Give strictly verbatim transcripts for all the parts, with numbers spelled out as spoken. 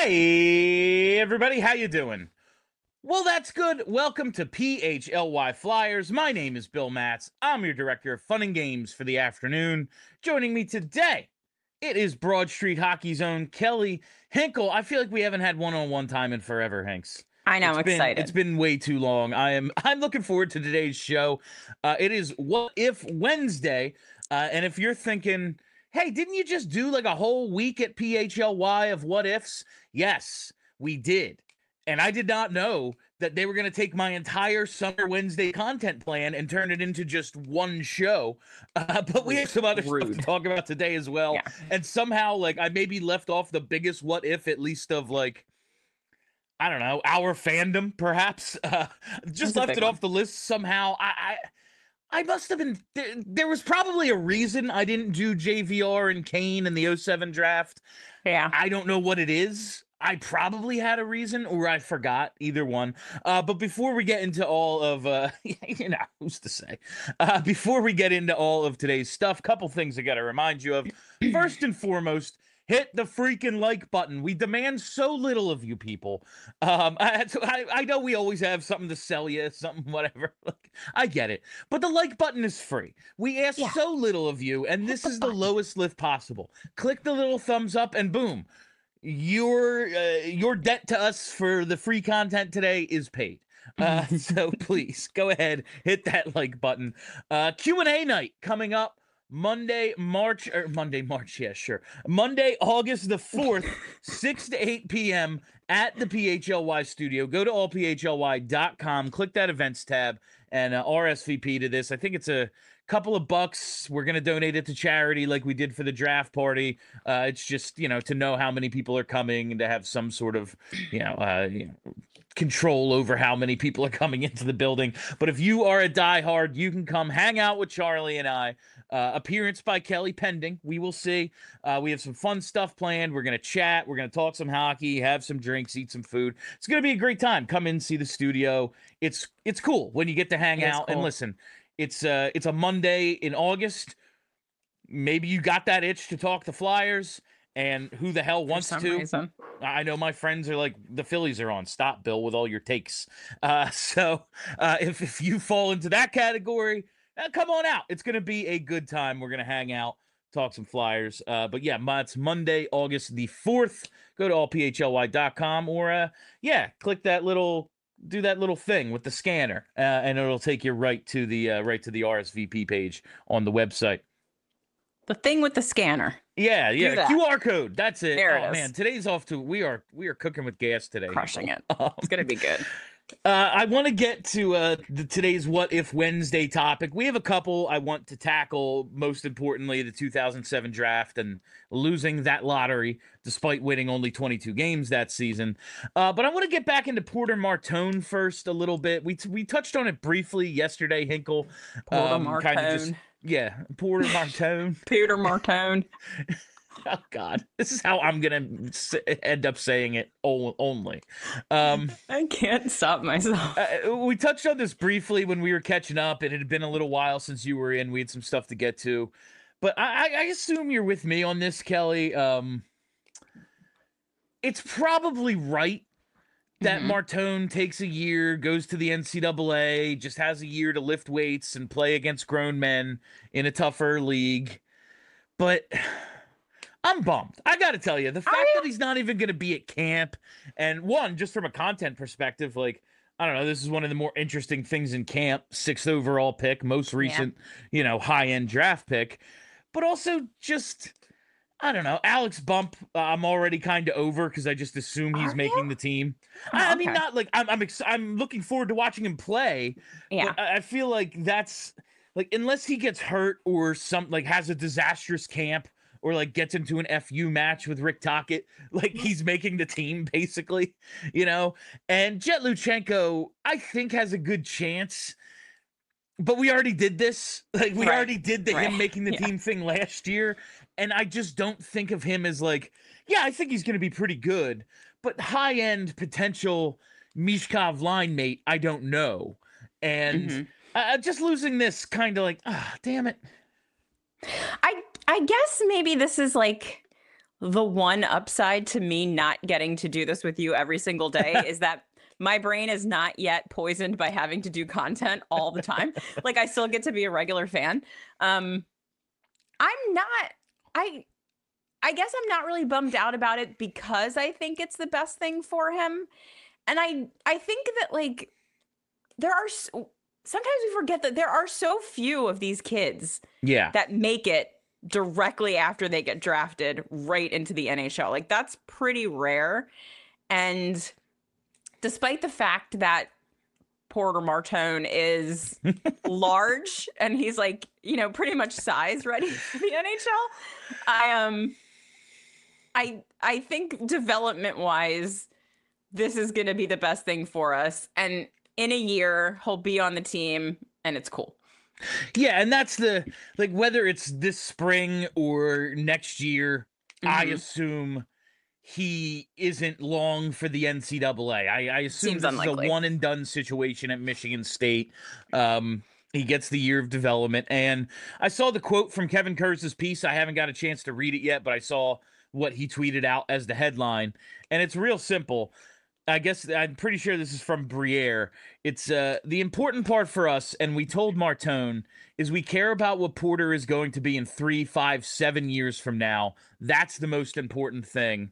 Hey, everybody, how you doing? Well, that's good. Welcome to P H L Y Flyers. My name is Bill Matz. I'm your director of fun and games for the afternoon. Joining me today, it is Broad Street Hockey's own Kelly Hinkle. I feel like we haven't had one-on-one time in forever, Hanks. I know, It's I'm been it's excited. been way too long. I am I'm looking forward to today's show. Uh, it is What If Wednesday, uh, and if you're thinking, hey, didn't you just do like a whole week at P H L Y of what ifs? Yes, we did. And I did not know that they were going to take my entire Summer Wednesday content plan and turn it into just one show. Uh, but we have some other stuff Rude. to talk about today as well. Yeah. And somehow, like, I maybe left off the biggest what if, at least of like, I don't know, our fandom, perhaps. Uh, just That's a left big it one. off the list somehow. I, I, I must have been. There, there was probably a reason I didn't do J V R and Kane in the oh seven draft. Yeah. I don't know what it is. I probably had a reason, or I forgot. Either one. Uh, but before we get into all of, uh, you know, who's to say? Uh, before we get into all of today's stuff, couple things I got to remind you of. First and foremost, hit the freaking like button. We demand so little of you people. Um, I, I, I know we always have something to sell you, something, whatever. Like, I get it. But the like button is free. We ask Yeah. so little of you, and Hit this the is the button. lowest lift possible. Click the little thumbs up, and boom. Your uh, your debt to us for the free content today is paid. Uh, so please go ahead, hit that like button. Uh, Q and A night coming up Monday, March or Monday, March. Yeah, sure. Monday, August the fourth, six to eight p.m. at the P H L Y studio. Go to all p h l y dot com, click that events tab, and uh, R S V P to this. I think it's a couple of bucks. We're going to donate it to charity like we did for the draft party. Uh, it's just, you know, to know how many people are coming and to have some sort of, you know, uh, you know, control over how many people are coming into the building. But if you are a diehard, you can come hang out with Charlie and I. Uh, appearance by Kelly pending. We will see. Uh, we have some fun stuff planned. We're going to chat. We're going to talk some hockey, have some drinks, eat some food. It's going to be a great time. Come in, see the studio. It's it's cool when you get to hang It is out. And cool. listen, it's uh it's a Monday in August. Maybe you got that itch to talk the Flyers, and who the hell For wants some to? reason. I know my friends are like, the Phillies are on. Stop, Bill, with all your takes. Uh, so uh, if if you fall into that category, uh, come on out. It's gonna be a good time. We're gonna hang out, talk some Flyers. Uh, but yeah, it's Monday, August the fourth. Go to all p h l y dot com or uh, yeah, click that little. Do that little thing with the scanner, uh, and it'll take you right to the uh, right to the R S V P page on the website. The thing with the scanner. Yeah, yeah, that. Q R code. That's it. There oh it is. man, today's off to we are we are cooking with gas today. Crushing it. Um, It's going to be good. uh, I want to get to uh, the, today's What If Wednesday topic. We have a couple I want to tackle. Most importantly, the two thousand seven draft and losing that lottery despite winning only twenty-two games that season. Uh, but I want to get back into Porter Martone first a little bit. We t- we touched on it briefly yesterday, Hinkle. Porter Um, kind of just Martone. yeah, Porter Martone. Peter Martone. Oh God, this is how I'm gonna s- end up saying it o- only. Um, I can't stop myself. uh, we touched on this briefly when we were catching up. It had been a little while since you were in. We had some stuff to get to, but I, I I assume you're with me on this, Kelly. Um, it's probably right that Mhm. Martone takes a year, goes to the N C double A, just has a year to lift weights and play against grown men in a tougher league, but. I'm bummed. I got to tell you, the fact you? that he's not even going to be at camp, and one, just from a content perspective, like, I don't know, this is one of the more interesting things in camp. Sixth overall pick, most recent, you know, high end draft pick, but also just, I don't know, Alex Bump. Uh, I'm already kind of over because I just assume he's Are making you? the team. Oh, I, I mean, okay. not like I'm. I'm. Ex- I'm looking forward to watching him play. Yeah. But I, I feel like that's like unless he gets hurt or some like has a disastrous camp or like gets into an F U match with Rick Tocchet, like he's making the team basically, you know. And Jet Luchenko, I think, has a good chance. But we already did this. Like we Right, already did the right, him making the yeah. team thing last year, and I just don't think of him as like, yeah, I think he's going to be pretty good, but high end potential Mishkov line mate, I don't know. And Mhm. uh, just losing this kind of like, ah, damn it. I I guess maybe this is like the one upside to me not getting to do this with you every single day is that my brain is not yet poisoned by having to do content all the time. Like, I still get to be a regular fan. Um, I'm not, I, I guess I'm not really bummed out about it because I think it's the best thing for him. And I, I think that, like, there are, so, sometimes we forget that there are so few of these kids yeah. that make it directly after they get drafted right into the N H L. Like, that's pretty rare. And despite the fact that Porter Martone is large and he's, like, you know, pretty much size ready for the N H L, I um I I think development wise, this is gonna be the best thing for us. And in a year, he'll be on the team and it's cool. Yeah, and that's the, like, whether it's this spring or next year, mm-hmm. I assume he isn't long for the N C double A. I, I assume Seems this unlikely. is a one and done situation at Michigan State. Um, he gets the year of development. And I saw the quote from Kevin Kurtz's piece. I haven't got a chance to read it yet, but I saw what he tweeted out as the headline. And it's real simple. I guess I'm pretty sure this is from Briere. It's uh, the important part for us, and we told Martone, is we care about what Porter is going to be in three, five, seven years from now. That's the most important thing.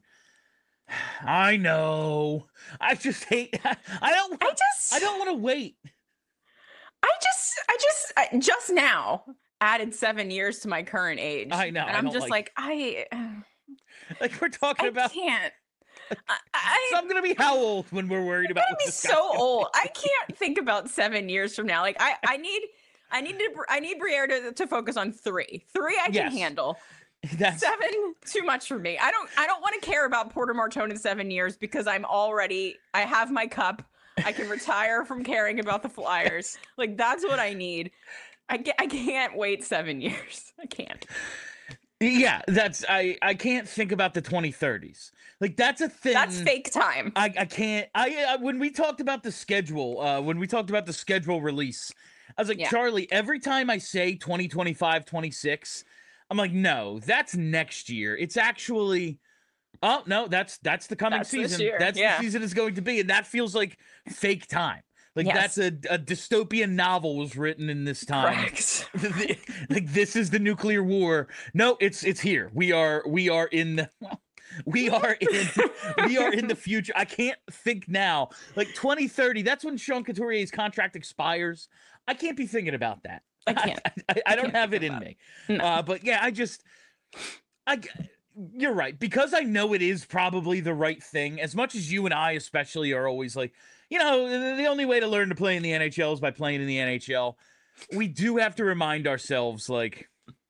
I know. I just hate. I don't. I just. I don't want to wait. I just. I just. I just now added seven years to my current age. I know. And I I'm don't just like, like I. Like we're talking I about. Can't. I, I, so I'm gonna be how old when we're worried about? I'm gonna be so old. I can't think about seven years from now. Like I. I need. I need to. I need Briere to to focus on three. Three I can yes. handle. That's seven too much for me. I don't I don't want to care about Porter Martone in seven years because I'm already I have my cup. I can retire from caring about the Flyers. Like that's what I need. I get, I can't wait seven years. I can't. Yeah, that's I I can't think about the twenty thirties. Like that's a thing. That's fake time. I I can't. I, I when we talked about the schedule, uh when we talked about the schedule release, I was like, yeah. Charlie, every time I say twenty twenty-five, twenty-six, I'm like, no, that's next year. It's actually, oh no, that's that's the coming that's season. That's yeah. the season is going to be, and that feels like fake time. Like yes. that's a, a dystopian novel was written in this time. Correct. Like this is the nuclear war. No, it's it's here. We are we are in the we are in we are in the future. I can't think now. Like twenty thirty, that's when Sean Couturier's contract expires. I can't be thinking about that. I can't. I, I, I don't can't have it in me. No. Uh, but yeah, I just, I, you're right. Because I know it is probably the right thing, as much as you and I especially are always like, you know, the only way to learn to play in the N H L is by playing in the N H L. We do have to remind ourselves, like,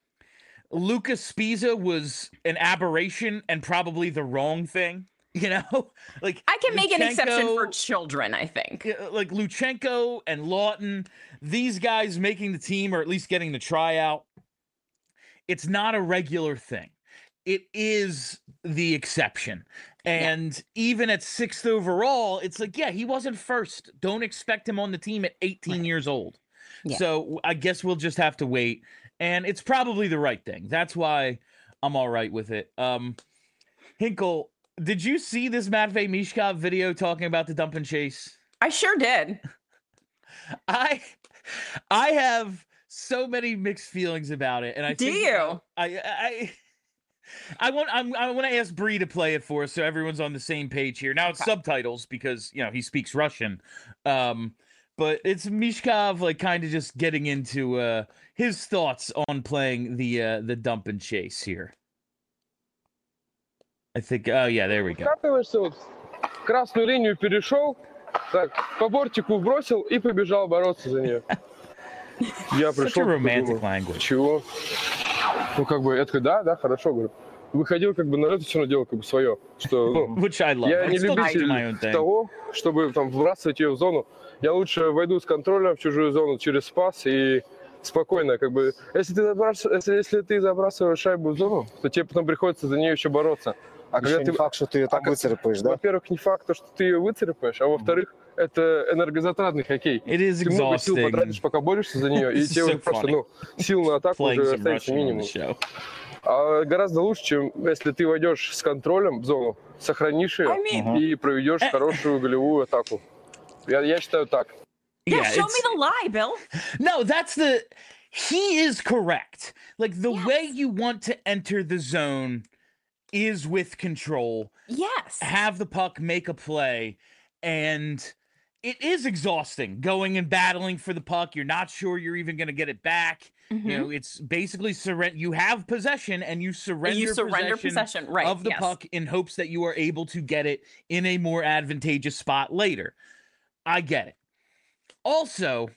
Lucas Spiza was an aberration and probably the wrong thing. You know, like I can make Luchenko, an exception for children, I think. Like Luchenko and Lawton, these guys making the team or at least getting the tryout. It's not a regular thing. It is the exception. And yeah. even at sixth overall, it's like, yeah, he wasn't first. Don't expect him on the team at eighteen right. years old. Yeah. So I guess we'll just have to wait. And it's probably the right thing. That's why I'm all right with it. Um, Hinkle, did you see this Matvei Michkov video talking about the dump and chase? I sure did. I I have so many mixed feelings about it, and I do think you? I I I want I'm, I want to ask Bree to play it for us so everyone's on the same page here. Now it's okay. Subtitles because you know he speaks Russian, um, but it's Michkov like kind of just getting into uh, his thoughts on playing the uh, the dump and chase here. I think, oh yeah, there we go. Скатываешься, вот, красную линию перешел, так, по бортику бросил и побежал бороться за нее. Я пришел, подумал, чего? Ну, как бы, я такой, да, да, хорошо, говорю. Выходил, как бы, на это все равно делал, как бы, свое. Что, ну, я не любитель того, чтобы, там, вбрасывать ее в зону. Я лучше войду с контролем в чужую зону через пас и спокойно, как бы, если ты, забрасываешь, если, если ты забрасываешь шайбу в зону, то тебе потом приходится за нее еще бороться. А еще не ты... факт, что ты ее там а выцарапаешь, да? Во-первых, не факт, что ты ее выцарапаешь, а во-вторых, mm-hmm. это энергозатратный хоккей. Ты много сил потратишь, пока борешься за нее, и тебе уже просто, ну, сил на атаку уже остается минимум. А гораздо лучше, чем если ты войдешь с контролем в зону, сохранишь ее I mean... и проведешь хорошую голевую атаку. Я, я считаю так. Yeah, Yeah, show it's- me the lie, Bill. No, that's the. He is correct. Like the Yes. way you want to enter the zone is with control. Yes. Have the puck, make a play, and it is exhausting going and battling for the puck. You're not sure you're even going to get it back. Mm-hmm. You know, it's basically surrender. You have possession, and you surrender. You surrender possession, possession, right? of the yes. puck in hopes that you are able to get it in a more advantageous spot later. I get it. Also,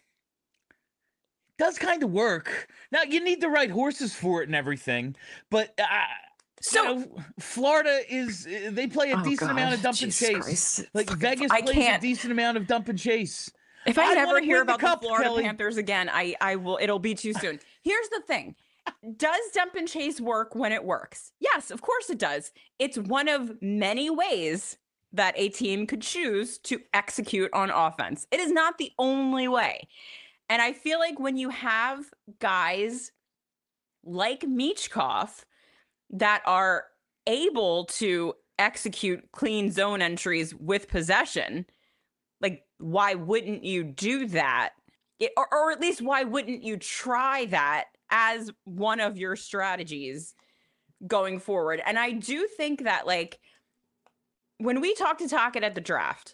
it does kind of work. Now you need the right horses for it and everything, but. Uh, So you know, Florida is they play a oh decent God, amount of dump Jesus and chase. Christ. Like Fucking- Vegas I plays can't. a decent amount of dump and chase. If I, I never wanna hear win the about cup, the Florida Kelly. Panthers again, I I will. It'll be too soon. Here's the thing: does dump and chase work when it works? Yes, of course it does. It's one of many ways that a team could choose to execute on offense. It is not the only way, and I feel like when you have guys like Michkov that are able to execute clean zone entries with possession, like why wouldn't you do that? It, or, or at least why wouldn't you try that as one of your strategies going forward? And I do think that, like, when we talked to Tocchet at the draft,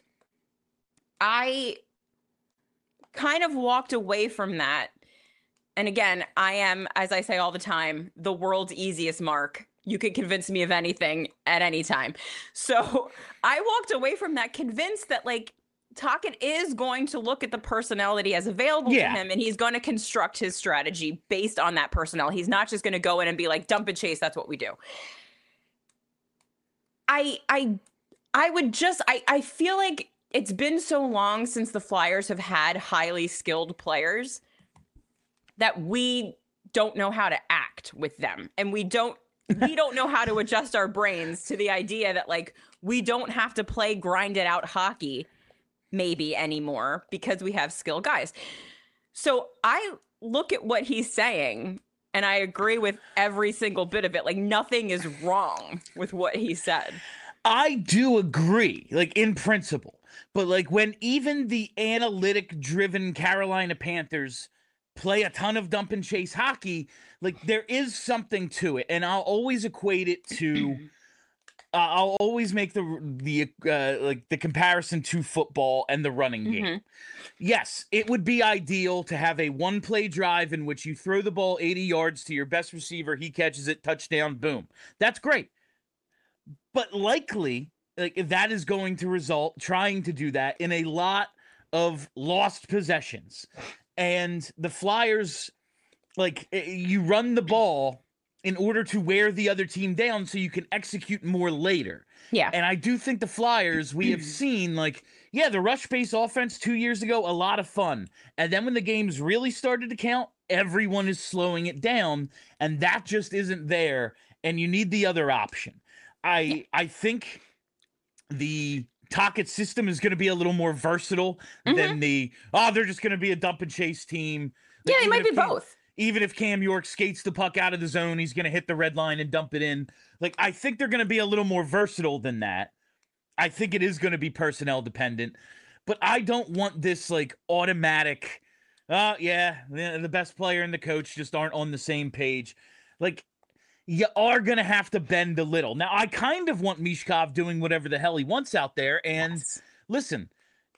I kind of walked away from that. And again, I am, as I say all the time, the world's easiest mark. You can convince me of anything at any time. So I walked away from that convinced that, like, Tocchet is going to look at the personnel that he has available Yeah. to him, and he's going to construct his strategy based on that personnel. He's not just going to go in and be like, dump and chase, that's what we do. I I I would just I, I feel like it's been so long since the Flyers have had highly skilled players that we don't know how to act with them. And we don't we don't know how to adjust our brains to the idea that, like, we don't have to play grinded out hockey maybe anymore because we have skilled guys. So I look at what he's saying and I agree with every single bit of it. Like, nothing is wrong with what he said. I do agree, like, in principle. But, like, when even the analytic-driven Carolina Panthers play a ton of dump and chase hockey, like, there is something to it. And I'll always equate it to... Uh, I'll always make the the uh, like the comparison to football and the running game. Mm-hmm. Yes, it would be ideal to have a one play drive in which you throw the ball eighty yards to your best receiver, he catches it, touchdown, boom. That's great. But likely, like, that is going to result trying to do that in a lot of lost possessions. And the Flyers, like, you run the ball in order to wear the other team down so you can execute more later. Yeah. And I do think the Flyers, we have seen, like, yeah, the rush-based offense two years ago, a lot of fun. And then when the games really started to count, everyone is slowing it down, and that just isn't there, and you need the other option. I Yeah. I think the Tocchet system is going to be a little more versatile Mhm. than the, oh, they're just going to be a dump and chase team. Yeah, Like, they even might if be Cam- both. Even if Cam York skates the puck out of the zone, he's going to hit the red line and dump it in. Like, I think they're going to be a little more versatile than that. I think it is going to be personnel dependent. But I don't want this, like, automatic, oh, yeah, the the best player and the coach just aren't on the same page. Like, you are going to have to bend a little. Now, I kind of want Michkov doing whatever the hell he wants out there. And Yes. listen,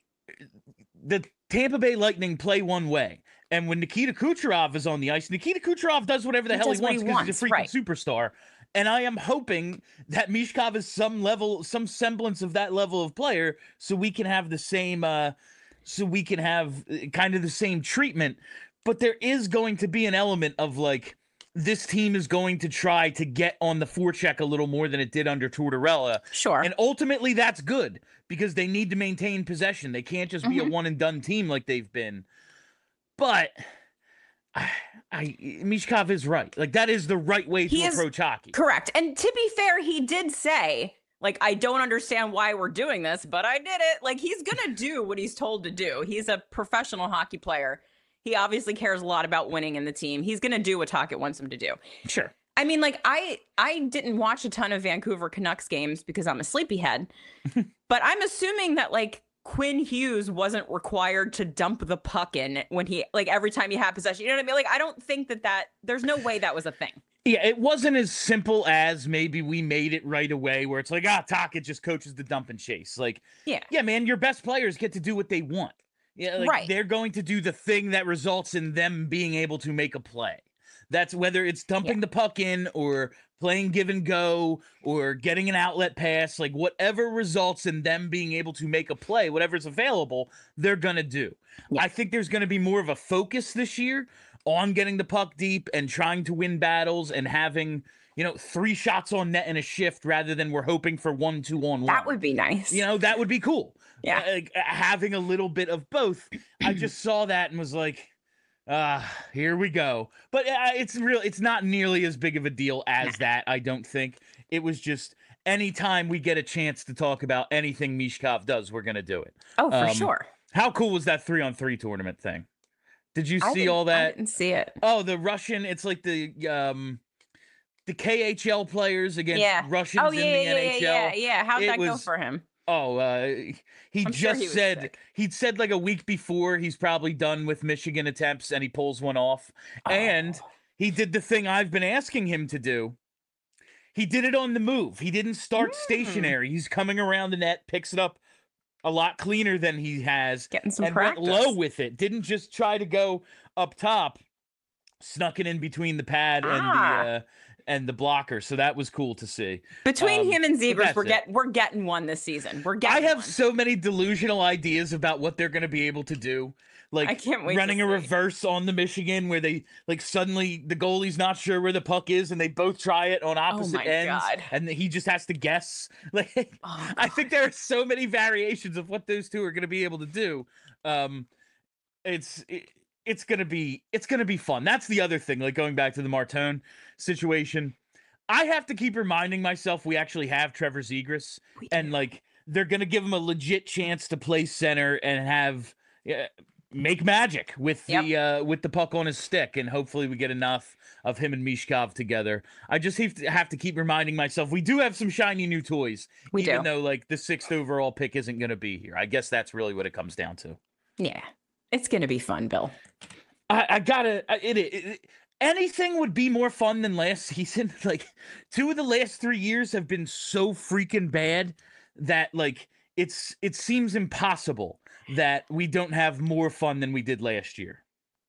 the Tampa Bay Lightning play one way. And when Nikita Kucherov is on the ice, Nikita Kucherov does whatever the He hell does he what wants he because he's a freaking wants, superstar. And I am hoping that Michkov is some level, some semblance of that level of player, so we can have the same, uh, so we can have uh, kind of the same treatment. But there is going to be an element of, like, this team is going to try to get on the forecheck a little more than it did under Tortorella. Sure. And ultimately, that's good because they need to maintain possession. They can't just be Mhm. a one and done team like they've been. But I, I Michkov is right. Like, that is the right way He to is approach hockey. Correct. And to be fair, he did say, like, I don't understand why we're doing this, but I did it. Like, he's going to do what he's told to do. He's a professional hockey player. He obviously cares a lot about winning in the team. He's going to do what Tocchet wants him to do. Sure. I mean, like I I didn't watch a ton of Vancouver Canucks games because I'm a sleepyhead, but I'm assuming that like Quinn Hughes wasn't required to dump the puck in when he like every time he had possession. You know what I mean? Like I don't think that that there's no way that was a thing. Yeah, it wasn't as simple as maybe we made it right away where it's like, ah, Tocchet just coaches the dump and chase. Like, yeah, yeah, man, your best players get to do what they want. Yeah, like right. They're going to do the thing that results in them being able to make a play. That's whether it's dumping yeah. the puck in or playing give and go or getting an outlet pass, like whatever results in them being able to make a play, whatever's available, they're going to do. Yeah. I think there's going to be more of a focus this year on getting the puck deep and trying to win battles and having, you know, three shots on net in a shift rather than we're hoping for one, two on one. That would be nice. You know, that would be cool. Yeah. Uh, like, having a little bit of both. I just saw that and was like, ah, uh, here we go. But uh, it's real. It's not nearly as big of a deal as nah. that, I don't think. It was just anytime we get a chance to talk about anything Michkov does, we're going to do it. Oh, for um, sure. How cool was that three on three tournament thing? Did you see all that? I didn't see it. Oh, the Russian, it's like the um the K H L players against yeah. Russians oh, yeah, in the yeah, N H L. Yeah, yeah, yeah. How'd it that was, go for him? Oh, uh, he I'm just sure he said, sick. he'd said like a week before he's probably done with Michigan attempts and he pulls one off. Oh. And he did the thing I've been asking him to do. He did it on the move. He didn't start mm. stationary. He's coming around the net, picks it up a lot cleaner than he has. Getting some and practice. Went low with it. Didn't just try to go up top. Snuck it in between the pad ah. and the uh, and the blocker, so that was cool to see. Between um, him and Zegras, we're it. get we're getting one this season. We're getting. I have one. so many delusional ideas about what they're going to be able to do, like I can't wait running to a see. reverse on the Michigan, where they like suddenly the goalie's not sure where the puck is, and they both try it on opposite oh my ends, God. and he just has to guess. Like, oh I think there are so many variations of what those two are going to be able to do. Um, it's. It, It's gonna be it's gonna be fun. That's the other thing. Like going back to the Martone situation, I have to keep reminding myself we actually have Trevor Zegras, and like they're gonna give him a legit chance to play center and have uh, make magic with the yep. uh, with the puck on his stick, and hopefully we get enough of him and Michkov together. I just have to have to keep reminding myself we do have some shiny new toys, we even do. though like the sixth overall pick isn't gonna be here. I guess that's really what it comes down to. Yeah. It's going to be fun, Bill. I, I gotta, it, it, it, anything would be more fun than last season. Like, two of the last three years have been so freaking bad that, like, it's it seems impossible that we don't have more fun than we did last year.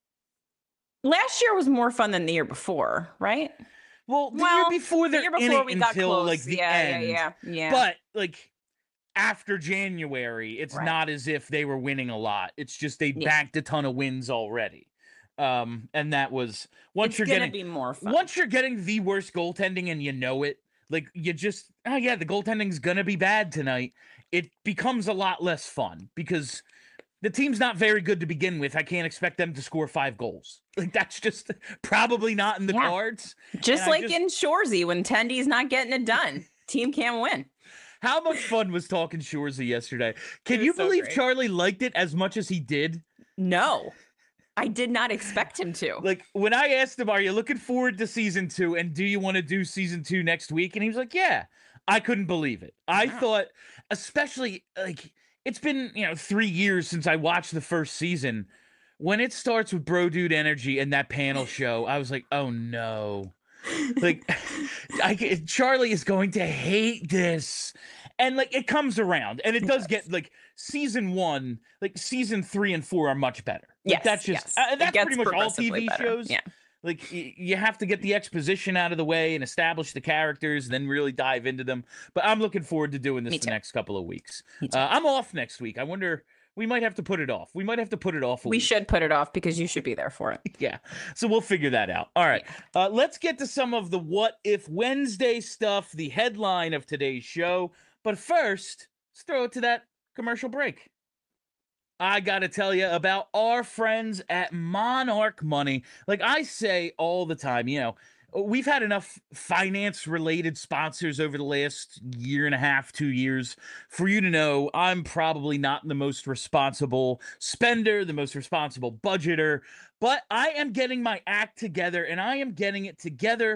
Last year was more fun than the year before, right? Well, the well, year before, the year before we got until, close. like, the yeah, end. Yeah, yeah, yeah. But, like, after January, it's right. not as if they were winning a lot. It's just they yeah. banked a ton of wins already. Um, and that was once it's you're gonna getting be more fun. Once you're getting the worst goaltending and you know it, like you just oh yeah, the goaltending's gonna be bad tonight. It becomes a lot less fun because the team's not very good to begin with. I can't expect them to score five goals. Like that's just probably not in the yeah. cards. Just and like just... in Shoresy when Tendy's not getting it done, team can't win. How much fun was talking Shoresy yesterday? Can you so believe great. Charlie liked it as much as he did? No, I did not expect him to. Like when I asked him, are you looking forward to season two? And do you want to do season two next week? And he was like, yeah, I couldn't believe it. I wow. thought, especially like it's been, you know, three years since I watched the first season. When it starts with Bro Dude Energy and that panel show, I was like, oh no. Like I, Charlie is going to hate this, and like it comes around, and it does yes. get like season one, like season three and four are much better. Like, yes, that's just yes. uh, that's pretty much all T V better. shows. Yeah, like y- you have to get the exposition out of the way and establish the characters, and then really dive into them. But I'm looking forward to doing this Me the too. next couple of weeks. Me too. Uh, I'm off next week. I wonder. We might have to put it off. We might have to put it off. A we week. should put it off because you should be there for it. Yeah. So we'll figure that out. All right. Uh, let's get to some of the What If Wednesday stuff, the headline of today's show. But first, let's throw it to that commercial break. I got to tell you about our friends at Monarch Money. Like I say all the time, you know, we've had enough finance-related sponsors over the last year and a half, two years, for you to know I'm probably not the most responsible spender, the most responsible budgeter, but I am getting my act together, and I am getting it together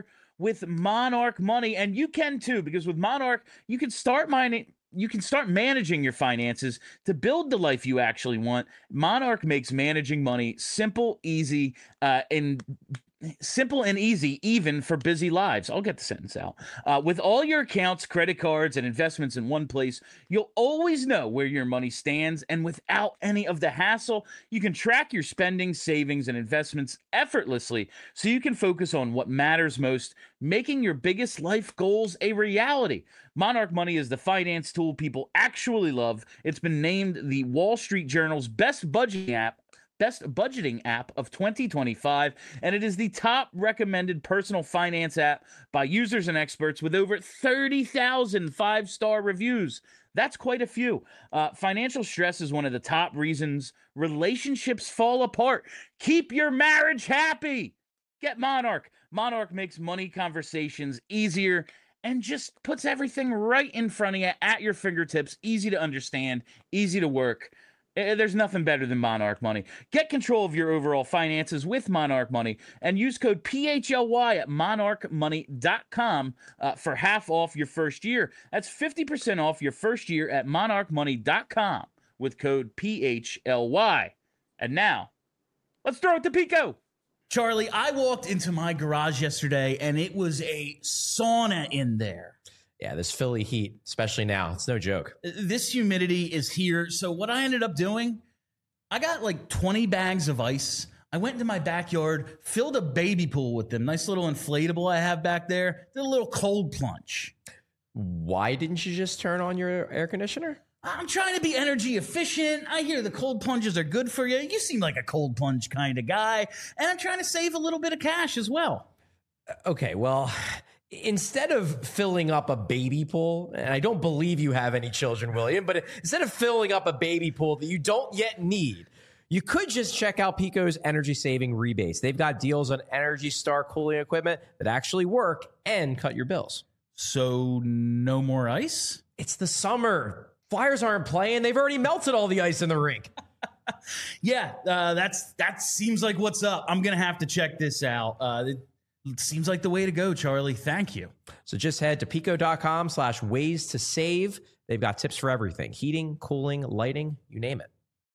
with Monarch Money, and you can too, because with Monarch, you can start mining. You can start managing your finances to build the life you actually want. Monarch makes managing money simple, easy, uh, and simple and easy, even for busy lives. I'll get the sentence out. Uh, with all your accounts, credit cards, and investments in one place, you'll always know where your money stands. And without any of the hassle, you can track your spending, savings, and investments effortlessly so you can focus on what matters most, making your biggest life goals a reality. Monarch Money is the finance tool people actually love. It's been named the Wall Street Journal's best budgeting app Best budgeting app of twenty twenty-five, and it is the top recommended personal finance app by users and experts with over thirty thousand five-star reviews. That's quite a few. Uh, financial stress is one of the top reasons relationships fall apart. Keep your marriage happy. Get Monarch. Monarch makes money conversations easier and just puts everything right in front of you at your fingertips. Easy to understand, easy to work. There's nothing better than Monarch Money. Get control of your overall finances with Monarch Money and use code P H L Y at monarch money dot com uh, for half off your first year. That's fifty percent off your first year at monarch money dot com with code P H L Y. And now, let's throw it to Pico. Charlie, I walked into my garage yesterday and it was a sauna in there. Yeah, this Philly heat, especially now, it's no joke. This humidity is here. So what I ended up doing, I got like twenty bags of ice. I went into my backyard, filled a baby pool with them. Nice little inflatable I have back there. Did a little cold plunge. Why didn't you just turn on your air conditioner? I'm trying to be energy efficient. I hear the cold plunges are good for you. You seem like a cold plunge kind of guy. And I'm trying to save a little bit of cash as well. Okay, well, instead of filling up a baby pool, and I don't believe you have any children, William, but instead of filling up a baby pool that you don't yet need, you could just check out Pico's energy saving rebates. They've got deals on Energy Star cooling equipment that actually work and cut your bills. So no more ice? It's the summer. Flyers aren't playing. They've already melted all the ice in the rink. yeah, uh, that's that seems like what's up. I'm going to have to check this out. Uh, it, It seems like the way to go, Charlie. Thank you. So just head to pico.com slash ways to save. They've got tips for everything. Heating, cooling, lighting, you name it.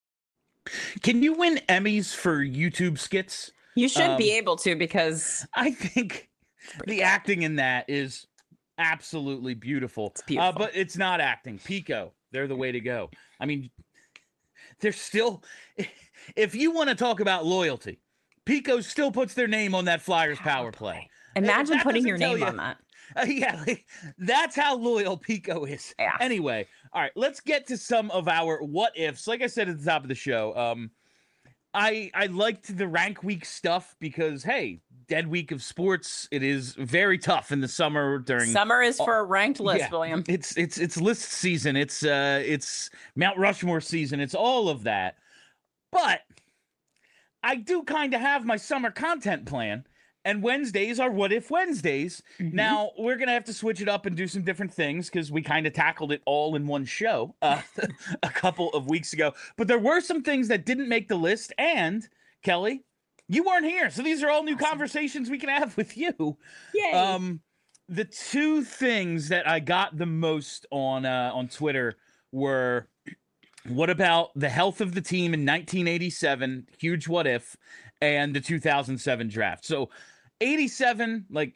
Can you win Emmys for YouTube skits? You should Um, be able to, because I think the good. acting in that is absolutely beautiful. It's beautiful. Uh, but it's not acting. Pico, they're the way to go. I mean, they're still, if you want to talk about loyalty, Pico still puts their name on that Flyers power play. Imagine That putting doesn't your tell name you- on that. Uh, yeah, like, that's how loyal Pico is. Yeah. Anyway, all right, let's get to some of our what ifs. Like I said at the top of the show, um, I I liked the rank week stuff because hey, dead week of sports. It is very tough in the summer during Summer is for a ranked list, yeah, William. It's it's it's list season. It's uh it's Mount Rushmore season. It's all of that. But I do kind of have my summer content plan, and Wednesdays are What If Wednesdays. Mhm. Now we're gonna have to switch it up and do some different things because we kind of tackled it all in one show uh, a couple of weeks ago. But there were some things that didn't make the list, and Kelly, you weren't here, so these are all new Awesome. conversations we can have with you. Yay. Um, the two things that I got the most on uh, on Twitter were, what about the health of the team in nineteen eighty-seven, huge what if, and the two thousand seven draft. So eighty-seven, like,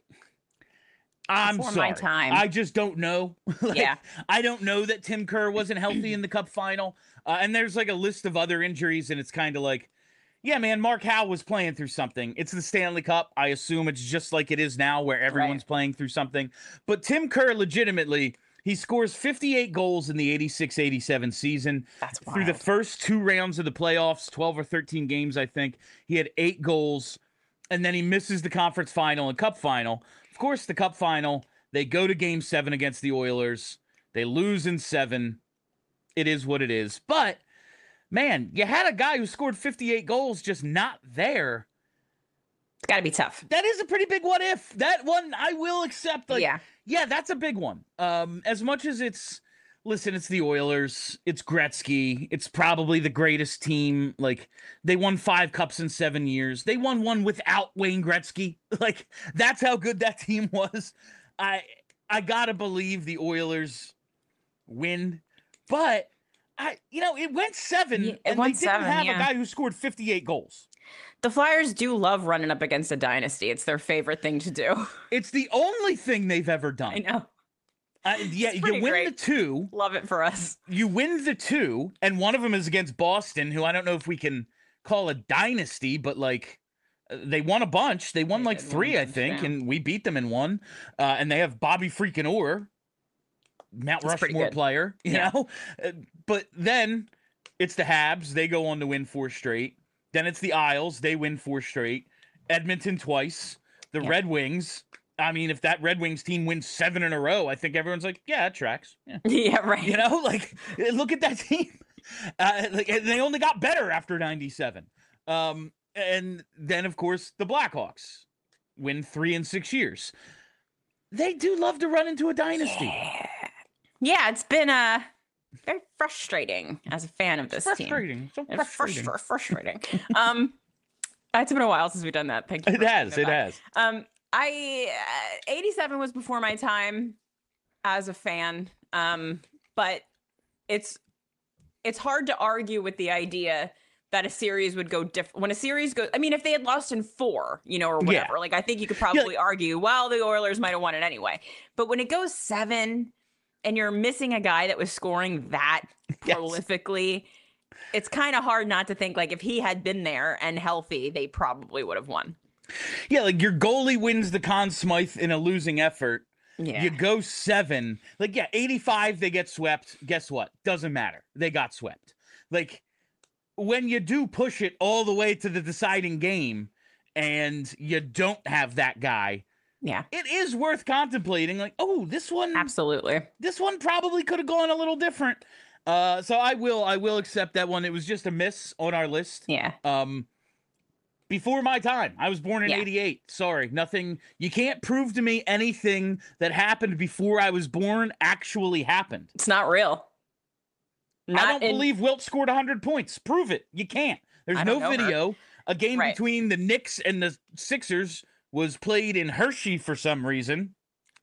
I'm Before sorry. my time. I just don't know. Like, Yeah. I don't know that Tim Kerr wasn't healthy in the Cup final. Uh, and there's like a list of other injuries, and it's kind of like, yeah, man, Mark Howe was playing through something. It's the Stanley Cup. I assume it's just like it is now where everyone's Right. playing through something. But Tim Kerr, legitimately, he scores fifty-eight goals in the eighty-six eighty-seven season. That's Through the wild. first two rounds of the playoffs, twelve or thirteen games, I think, he had eight goals. And then he misses the conference final and Cup final. Of course, the Cup final, they go to game seven against the Oilers. They lose in seven. It is what it is. But, man, you had a guy who scored fifty-eight goals just not there. It's got to be tough. That is a pretty big what if. That one I will accept. Like, Yeah. yeah, that's a big one. Um, as much as it's listen, it's the Oilers. It's Gretzky. It's probably the greatest team. Like, they won five cups in seven years. They won one without Wayne Gretzky. Like, that's how good that team was. I I gotta believe the Oilers win, but I you know it went seven, Yeah, it and went they didn't seven, have yeah. a guy who scored fifty-eight goals. The Flyers do love running up against a dynasty. It's their favorite thing to do. It's the only thing they've ever done. I know. Uh, yeah, It's you pretty win great. the two. Love it for us. You win the two, and one of them is against Boston, who I don't know if we can call a dynasty, but like uh, they won a bunch. They won They like did win a three, I bunch, think, yeah. and we beat them in one. Uh, and they have Bobby freaking Orr, Mount That's pretty Rushmore good. player, you Yeah. know. Uh, but then it's the Habs. They go on to win four straight. Then it's the Isles. They win four straight. Edmonton twice. The Yeah. Red Wings. I mean, if that Red Wings team wins seven in a row, I think everyone's like, yeah, it tracks. Yeah. Yeah, right. You know, like look at that team. Uh, like and they only got better after ninety-seven. Um, and then of course the Blackhawks win three in six years. They do love to run into a dynasty. Yeah. Yeah, it's been uh very frustrating as a fan of this team. Frustrating. So It's frustrating. frustra- frustrating. um, it's been a while since we've done that. Thank you. It for has. bringing It that has. back. Um, I uh, eighty-seven was before my time as a fan. Um, but it's it's hard to argue with the idea that a series would go different when a series goes. I mean, if they had lost in four, you know, or Yeah. whatever, like I think you could probably argue, well, the Oilers might have won it anyway. But when it goes seven, and you're missing a guy that was scoring that Yes. prolifically, it's kind of hard not to think like if he had been there and healthy, they probably would have won. Yeah, like your goalie wins the Conn Smythe in a losing effort. Yeah. You go seven. Like, yeah, eighty-five, they get swept. Guess what? Doesn't matter. They got swept. Like, when you do push it all the way to the deciding game and you don't have that guy, Yeah, it is worth contemplating. Like, oh, this one, absolutely. this one probably could have gone a little different. Uh, so I will, I will accept that one. It was just a miss on our list. Yeah. Um, before my time. I was born in Yeah. eighty-eight. Sorry, nothing. You can't prove to me anything that happened before I was born actually happened. It's not real. Not I don't in- believe Wilt scored one hundred points. Prove it. You can't. There's I no don't know her. video. A game Right. between the Knicks and the Sixers was played in Hershey for some reason.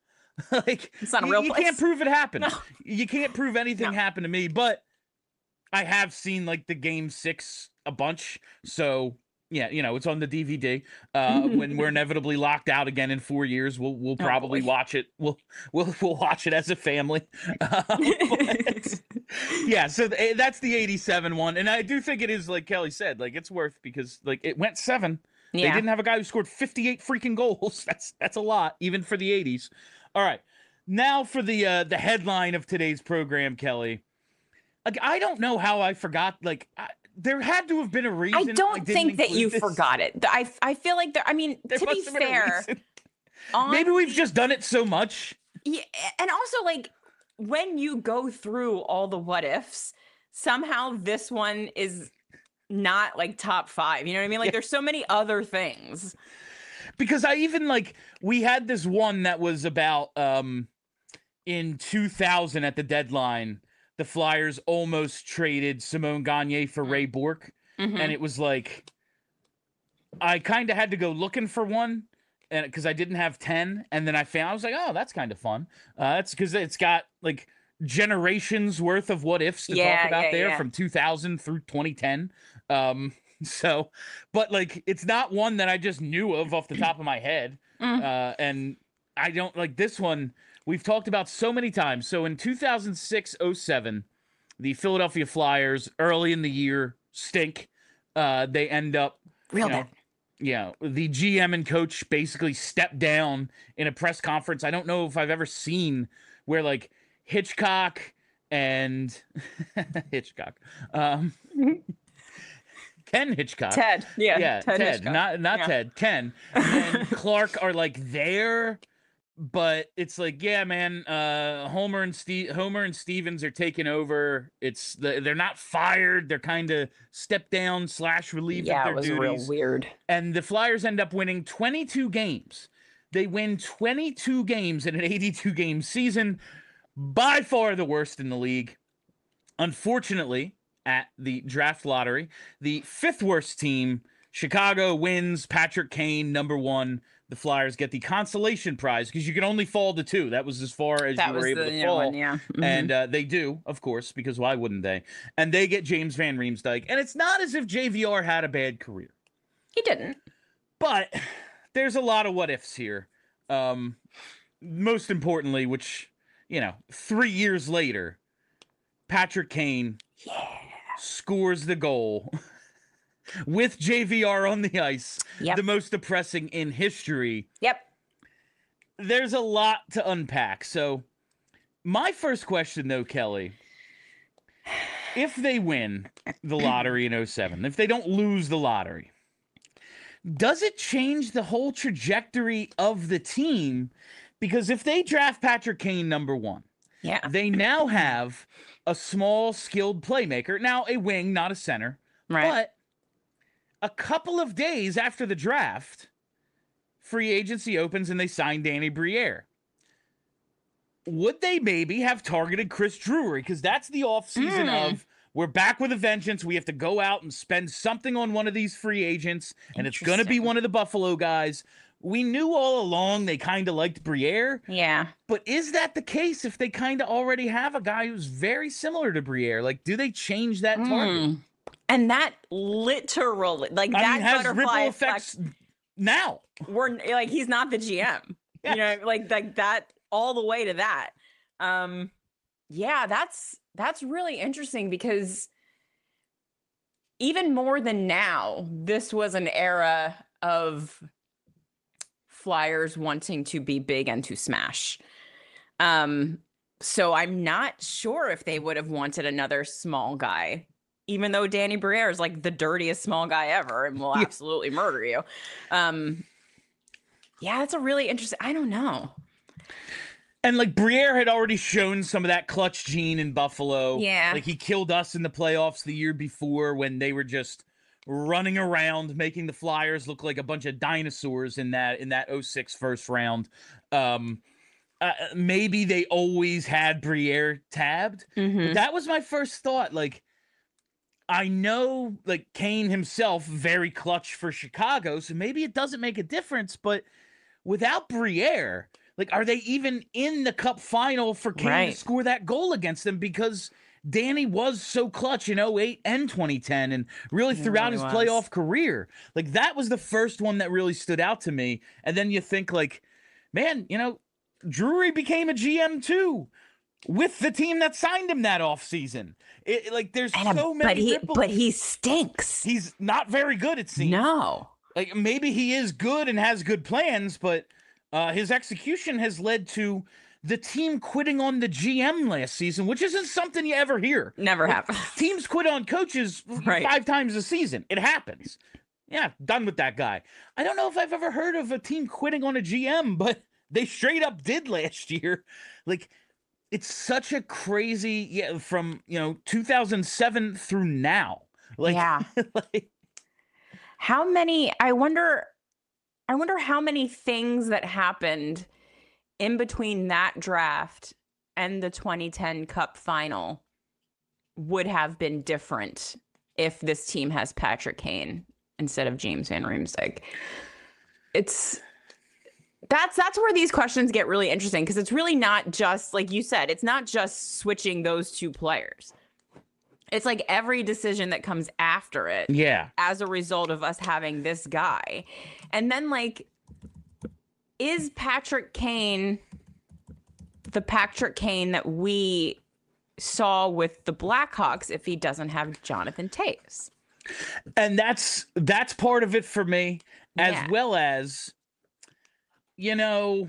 Like, It's not a you, real you place. can't prove it happened. No. You can't prove anything No. happened to me, but I have seen like the game six a bunch. So yeah, you know, it's on the D V D. Uh, when we're inevitably locked out again in four years, we'll we'll Oh, probably boy. watch it. We'll we'll we'll watch it as a family. Uh, but, yeah, so th- that's the eighty-seven one, and I do think it is like Kelly said, like it's worth because like it went seven. They Yeah. didn't have a guy who scored fifty-eight freaking goals. That's that's a lot, even for the eighties. All right, now for the uh, the headline of today's program, Kelly. Like I don't know how I forgot. Like I, there had to have been a reason. I don't didn't think that include you this. forgot it. I I feel like there. I mean, There to be must have been a fair, reason. on Maybe we've the- just done it so much. Yeah, and also like when you go through all the what ifs, somehow this one is not like top five. You know what I mean? Like Yeah. there's so many other things. Because I even like we had this one that was about um in two thousand at the deadline, the Flyers almost traded Simone Gagne for Ray Bourque, Mhm. and it was like I kind of had to go looking for one, and because I didn't have ten, and then I found I was like, oh, that's kind of fun. Uh, that's because it's got like generations worth of what ifs to Yeah, talk about yeah, there yeah. from two thousand through twenty ten. Um, so, but like it's not one that I just knew of off the top of my head. Mm. Uh, and I don't like this one. We've talked about so many times. So in two thousand six oh seven, the Philadelphia Flyers early in the year stink. Uh, they end up Real you know, bad. yeah, the G M and coach basically stepped down in a press conference. I don't know if I've ever seen where like Hitchcock and Hitchcock, um, Ken Hitchcock, Ted. Yeah. yeah, Ted, Hitchcock. not not Yeah. Ted, Ken and Clark are like there, but it's like, yeah, man, uh, Homer and Steve, Homer and Stevens are taking over. It's the, they're not fired. They're kind of stepped down slash relieved Yeah, of it their was duties. real weird. And the Flyers end up winning twenty-two games. They win twenty-two games in an eighty-two game season. by far the worst in the league. Unfortunately, at the draft lottery, the fifth worst team, Chicago, wins. Patrick Kane, number one. The Flyers get the consolation prize because you can only fall to two. That was as far as That you were was able the to new fall. one, yeah. Mhm. And uh, they do, of course, because why wouldn't they? And they get James Van Riemsdyk. And it's not as if J V R had a bad career. He didn't. But there's a lot of what ifs here. Um, most importantly, which, you know, three years later, Patrick Kane Yeah. scores the goal with J V R on the ice, Yep. the most depressing in history. Yep. There's a lot to unpack. So, my first question, though, Kelly, if they win the lottery in oh seven, if they don't lose the lottery, does it change the whole trajectory of the team? Because if they draft Patrick Kane number one, Yeah. they now have a small, skilled playmaker. Now, a wing, not a center. Right. But a couple of days after the draft, free agency opens and they sign Danny Briere. Would they maybe have targeted Chris Drury? Because that's the offseason Mm. of we're back with a vengeance. We have to go out and spend something on one of these free agents, and it's going to be Interesting. one of the Buffalo guys. We knew all along they kind of liked Briere, Yeah. but is that the case if they kind of already have a guy who's very similar to Briere? Like, do they change that target? Mm. And that literally, like I that mean, has butterfly ripple effect, effects now. we're like he's not the G M. Yes. You know, like like that all the way to that. Um yeah, that's that's really interesting because even more than now, this was an era of Flyers wanting to be big and to smash. Um so I'm not sure if they would have wanted another small guy, even though Danny Briere is like the dirtiest small guy ever and will Yeah. absolutely murder you. Um, yeah, that's a really interesting. I don't know. And like Briere had already shown some of that clutch gene in Buffalo. Yeah. Like he killed us in the playoffs the year before when they were just running around making the Flyers look like a bunch of dinosaurs in that in that oh six first round. Um uh, maybe they always had Briere tabbed. Mhm. But that was my first thought. Like, I know, like, Kane himself, very clutch for Chicago, so maybe it doesn't make a difference, but without Briere, like, are they even in the Cup final for Kane Right. to score that goal against them? Because Danny was so clutch in oh eight and twenty ten and really He throughout really his was. playoff career. Like, that was the first one that really stood out to me. And then you think, like, man, you know, Drury became a G M too with the team that signed him that offseason. It, like, there's And, so uh, many but he ripple- but he stinks. He's not very good, it seems. No. Like, maybe he is good and has good plans, but uh, his execution has led to the team quitting on the G M last season, which isn't something you ever hear. Never Like, happened. Teams quit on coaches Right. five times a season. It happens. Yeah, done with that guy. I don't know if I've ever heard of a team quitting on a G M, but they straight up did last year. Like, it's such a crazy, yeah, from, you know, two thousand seven through now. Like, Yeah. like How many I wonder I wonder how many things that happened in between that draft and the twenty ten Cup final would have been different if this team has Patrick Kane instead of James Van Riemsdyk. It's that's that's where these questions get really interesting because it's really not just like you said, it's not just switching those two players. It's like every decision that comes after it yeah. as a result of us having this guy. And then, like, is Patrick Kane the Patrick Kane that we saw with the Blackhawks if he doesn't have Jonathan Toews? And that's that's part of it for me, as Yeah. well as, you know,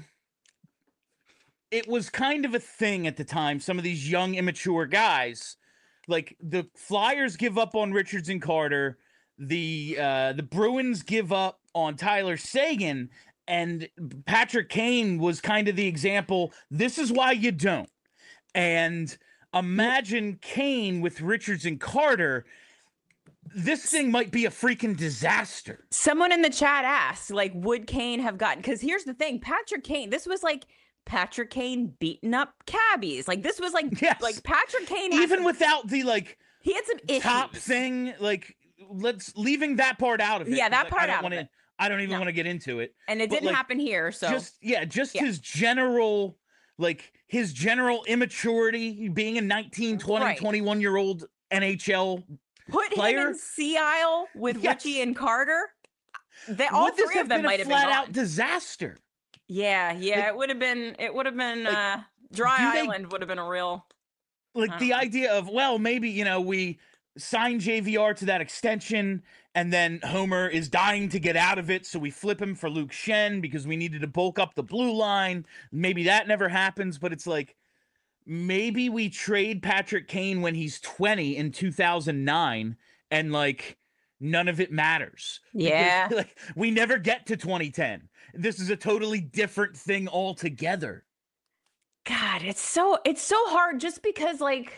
it was kind of a thing at the time. Some of these young, immature guys, like the Flyers give up on Richards and Carter, the uh, the Bruins give up on Tyler Seguin, and Patrick Kane was kind of the example. This is why you don't. And imagine Kane with Richards and Carter. This thing might be a freaking disaster. Someone in the chat asked, like, would Kane have gotten? Because here's the thing, Patrick Kane, this was like Patrick Kane beating up cabbies. Like this was like Yes. like Patrick Kane Even some, without the like he had some issues. top thing, like let's leaving that part out of it. Yeah, that like, part I don't out wanna, of it. I don't even No. want to get into it. And it But, didn't like, happen here. So Just yeah, just Yeah. his general like his general immaturity, being a nineteen, twenty, Right. twenty-one year old N H L. put player? him in Sea Isle with Yes. Richie and Carter. They, all Would this three have of them been might a have been flat gone. out disaster? Yeah, yeah, Like- it would have been. It would have been. like, uh Dry do they- Island would have been a real. Like I the don't know. idea of, well, maybe, you know, we sign J V R to that extension and then Homer is dying to get out of it, so we flip him for Luke Shen because we needed to bulk up the blue line. Maybe that never happens, but it's like maybe we trade Patrick Kane when he's twenty in two thousand nine and like none of it matters. Because, Yeah. like we never get to twenty ten. This is a totally different thing altogether. God, it's so it's so hard just because like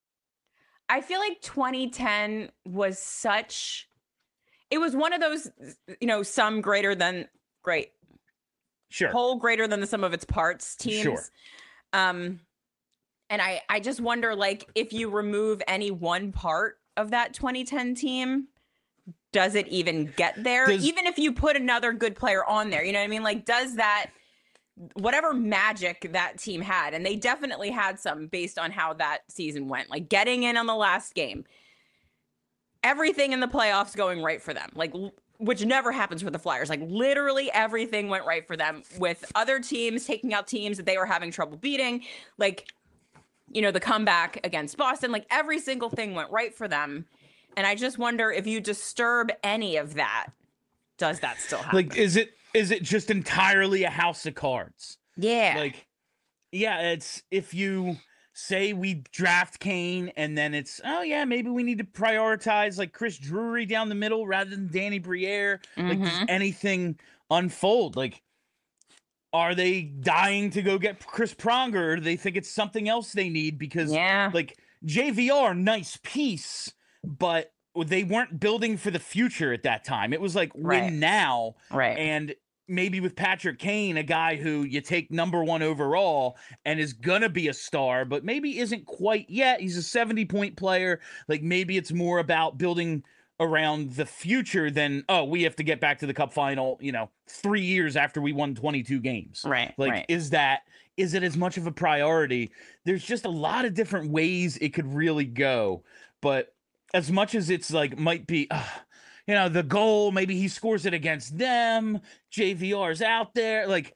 I feel like twenty ten was such it was one of those, you know, some greater than great, Sure. whole greater than the sum of its parts teams. Sure. Um and I I just wonder like if you remove any one part of that twenty ten team, does it even get there? Does- Even if you put another good player on there, you know what I mean? Like does that whatever magic that team had, and they definitely had some based on how that season went, like getting in on the last game, everything in the playoffs going right for them, like l- which never happens for the Flyers. Like literally everything went right for them with other teams taking out teams that they were having trouble beating. Like, you know, the comeback against Boston, like every single thing went right for them. And I just wonder if you disturb any of that, does that still happen? Like, is it is it just entirely a house of cards? yeah. Like, yeah, it's if you say we draft Kane and then it's, oh yeah, maybe we need to prioritize like Chris Drury down the middle rather than Danny Briere. Like, does Mhm. anything unfold? Like, are they dying to go get Chris Pronger? Or do they think it's something else they need? Because yeah. like J V R, nice piece, but they weren't building for the future at that time. It was like win Right. now. Right. And maybe with Patrick Kane, a guy who you take number one overall and is gonna be a star, but maybe isn't quite yet. He's a seventy point player. Like maybe it's more about building around the future than, oh, we have to get back to the cup final, you know, three years after we won twenty-two games. Right. Like, right. is that, is it as much of a priority? There's just a lot of different ways it could really go. But as much as it's like, might be, uh, you know, the goal, maybe he scores it against them. J V R's out there. Like,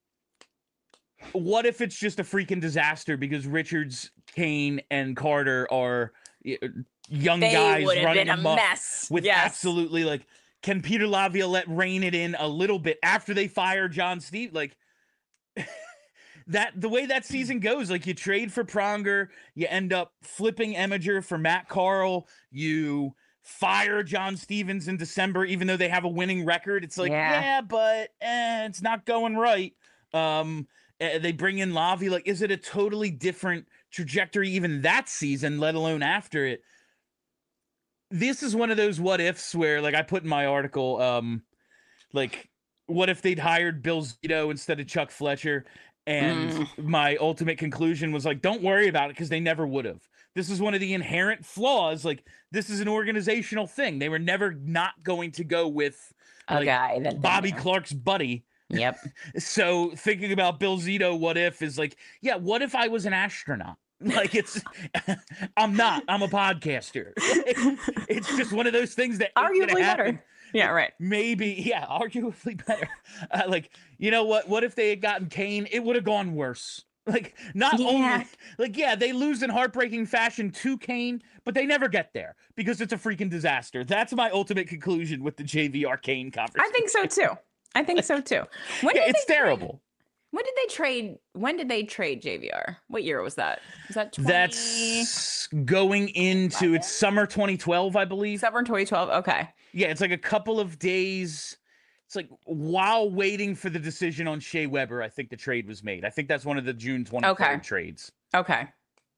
what if it's just a freaking disaster because Richards, Kane, and Carter are y- young They guys would have running been a amok mess. with yes. absolutely like, can Peter Laviolette rein it in a little bit after they fire John Steve? Like that, the way that season goes, like you trade for Pronger, you end up flipping Eminger for Matt Carl, you fire John Stevens in December, even though they have a winning record. It's like, Yeah. yeah, but eh, it's not going right. Um, eh, they bring in Lavi. Like, is it a totally different trajectory even that season, let alone after it? This is one of those what ifs where, like I put in my article, um, like, what if they'd hired Bill Zito instead of Chuck Fletcher? And Mm. my ultimate conclusion was like, don't worry about it because they never would have. This is one of the inherent flaws. Like, this is an organizational thing. They were never not going to go with A like, guy that they Bobby knew. Clark's buddy. Yep. So thinking about Bill Zito, what if is like, yeah, what if I was an astronaut? Like it's, I'm not. I'm a podcaster. It's just one of those things that ain't gonna Arguably happen. better. Yeah. Right. Maybe, yeah, arguably better. Uh, like, you know what? What if they had gotten Kane? It would have gone worse. Like, not Yeah. only, like, yeah, they lose in heartbreaking fashion to Kane, but they never get there because it's a freaking disaster. That's my ultimate conclusion with the J V R Kane conversation. I think so too. I think so too. When Yeah, did it's they trade- terrible. When did they trade? When did they trade J V R? What year was that? Was that twenty? That's going into it's summer twenty twelve, I believe. Summer twenty twelve. Okay. Yeah, it's like a couple of days. It's like while waiting for the decision on Shea Weber, I think the trade was made. I think that's one of the June twenty-third Okay. trades. Okay.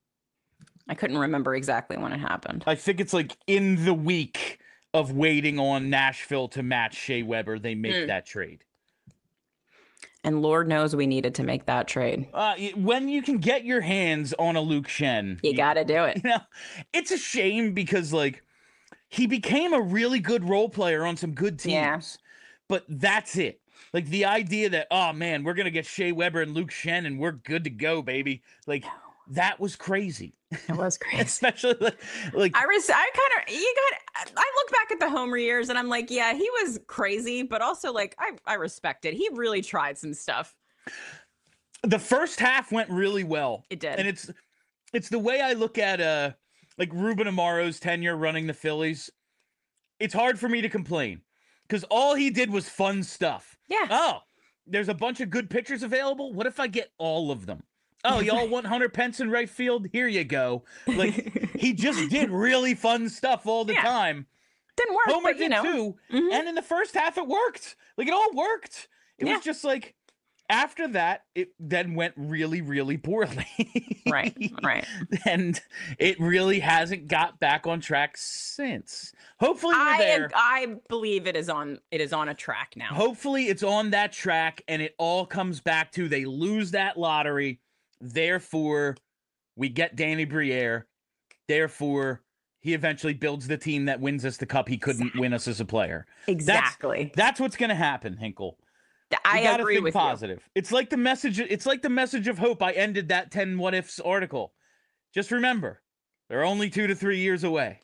I couldn't remember exactly when it happened. I think it's like in the week of waiting on Nashville to match Shea Weber, they make Mm. that trade. And Lord knows we needed to make that trade. Uh, when you can get your hands on a Luke Shen, you, you got to do it. You know, it's a shame because like he became a really good role player on some good teams, yeah. but that's it. Like the idea that, oh man, we're going to get Shea Weber and Luke Shen and we're good to go, baby. Like that was crazy. It was crazy. Especially like, like I, res- I kind of, you got, I look back at the Homer years and I'm like, yeah, he was crazy, but also like, I, I respect it. He really tried some stuff. The first half went really well. It did. And it's, it's the way I look at, uh, like Ruben Amaro's tenure running the Phillies. It's hard for me to complain because all he did was fun stuff. Yeah. Oh, there's a bunch of good pitchers available. What if I get all of them? Oh, y'all want Hunter Pence in right field? Here you go. Like he just did really fun stuff all the yeah. time. Didn't work, Homer but, you did know. too. Mm-hmm. And in the first half, it worked. Like it all worked. It yeah. was just like after that, it then went really, really poorly. Right, right. And it really hasn't got back on track since. Hopefully, we're I there. I believe it is on. It is on a track now. Hopefully, it's on that track, and it all comes back to they lose that lottery. Therefore, we get Danny Briere. Therefore, he eventually builds the team that wins us the cup he couldn't exactly. win us as a player. Exactly. That's, that's what's going to happen, Hinkle. I you agree think with positive. you. It's like the message. It's like the message of hope. I ended that ten what ifs article. Just remember, they're only two to three years away.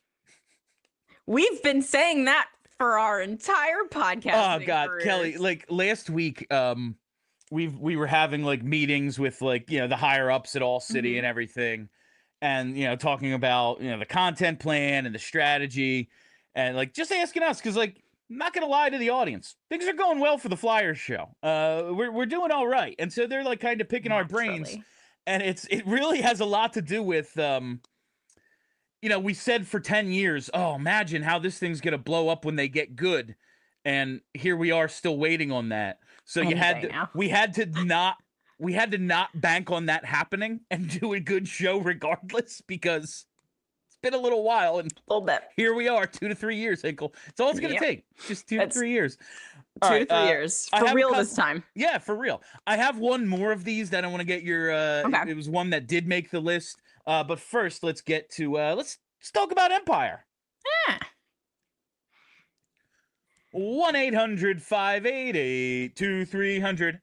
We've been saying that for our entire podcast. Oh God, careers. Kelly! Like last week, um, we we were having like meetings with like you know the higher ups at All City mm-hmm. and everything, and you know talking about you know the content plan and the strategy, and like just asking us because like. I'm not gonna lie to the audience. Things are going well for the Flyers show. Uh, we're we're doing all right, and so they're like kind of picking Naturally. our brains, and it's it really has a lot to do with, um, you know, we said for ten years, oh, imagine how this thing's gonna blow up when they get good, and here we are still waiting on that. So you had to, now. we had to not we had to not bank on that happening and do a good show regardless because. Been a little while and a little bit. Here we are, two to three years, Hinkle. It's all it's gonna yep. take. Just two That's to three years. Two right, to three uh, years. For real couple, this time. Yeah, for real. I have one more of these that I want to get your uh okay. it was one that did make the list. Uh but first let's get to uh let's let's talk about Empire. Yeah. one eight hundred five eight eight two three hundred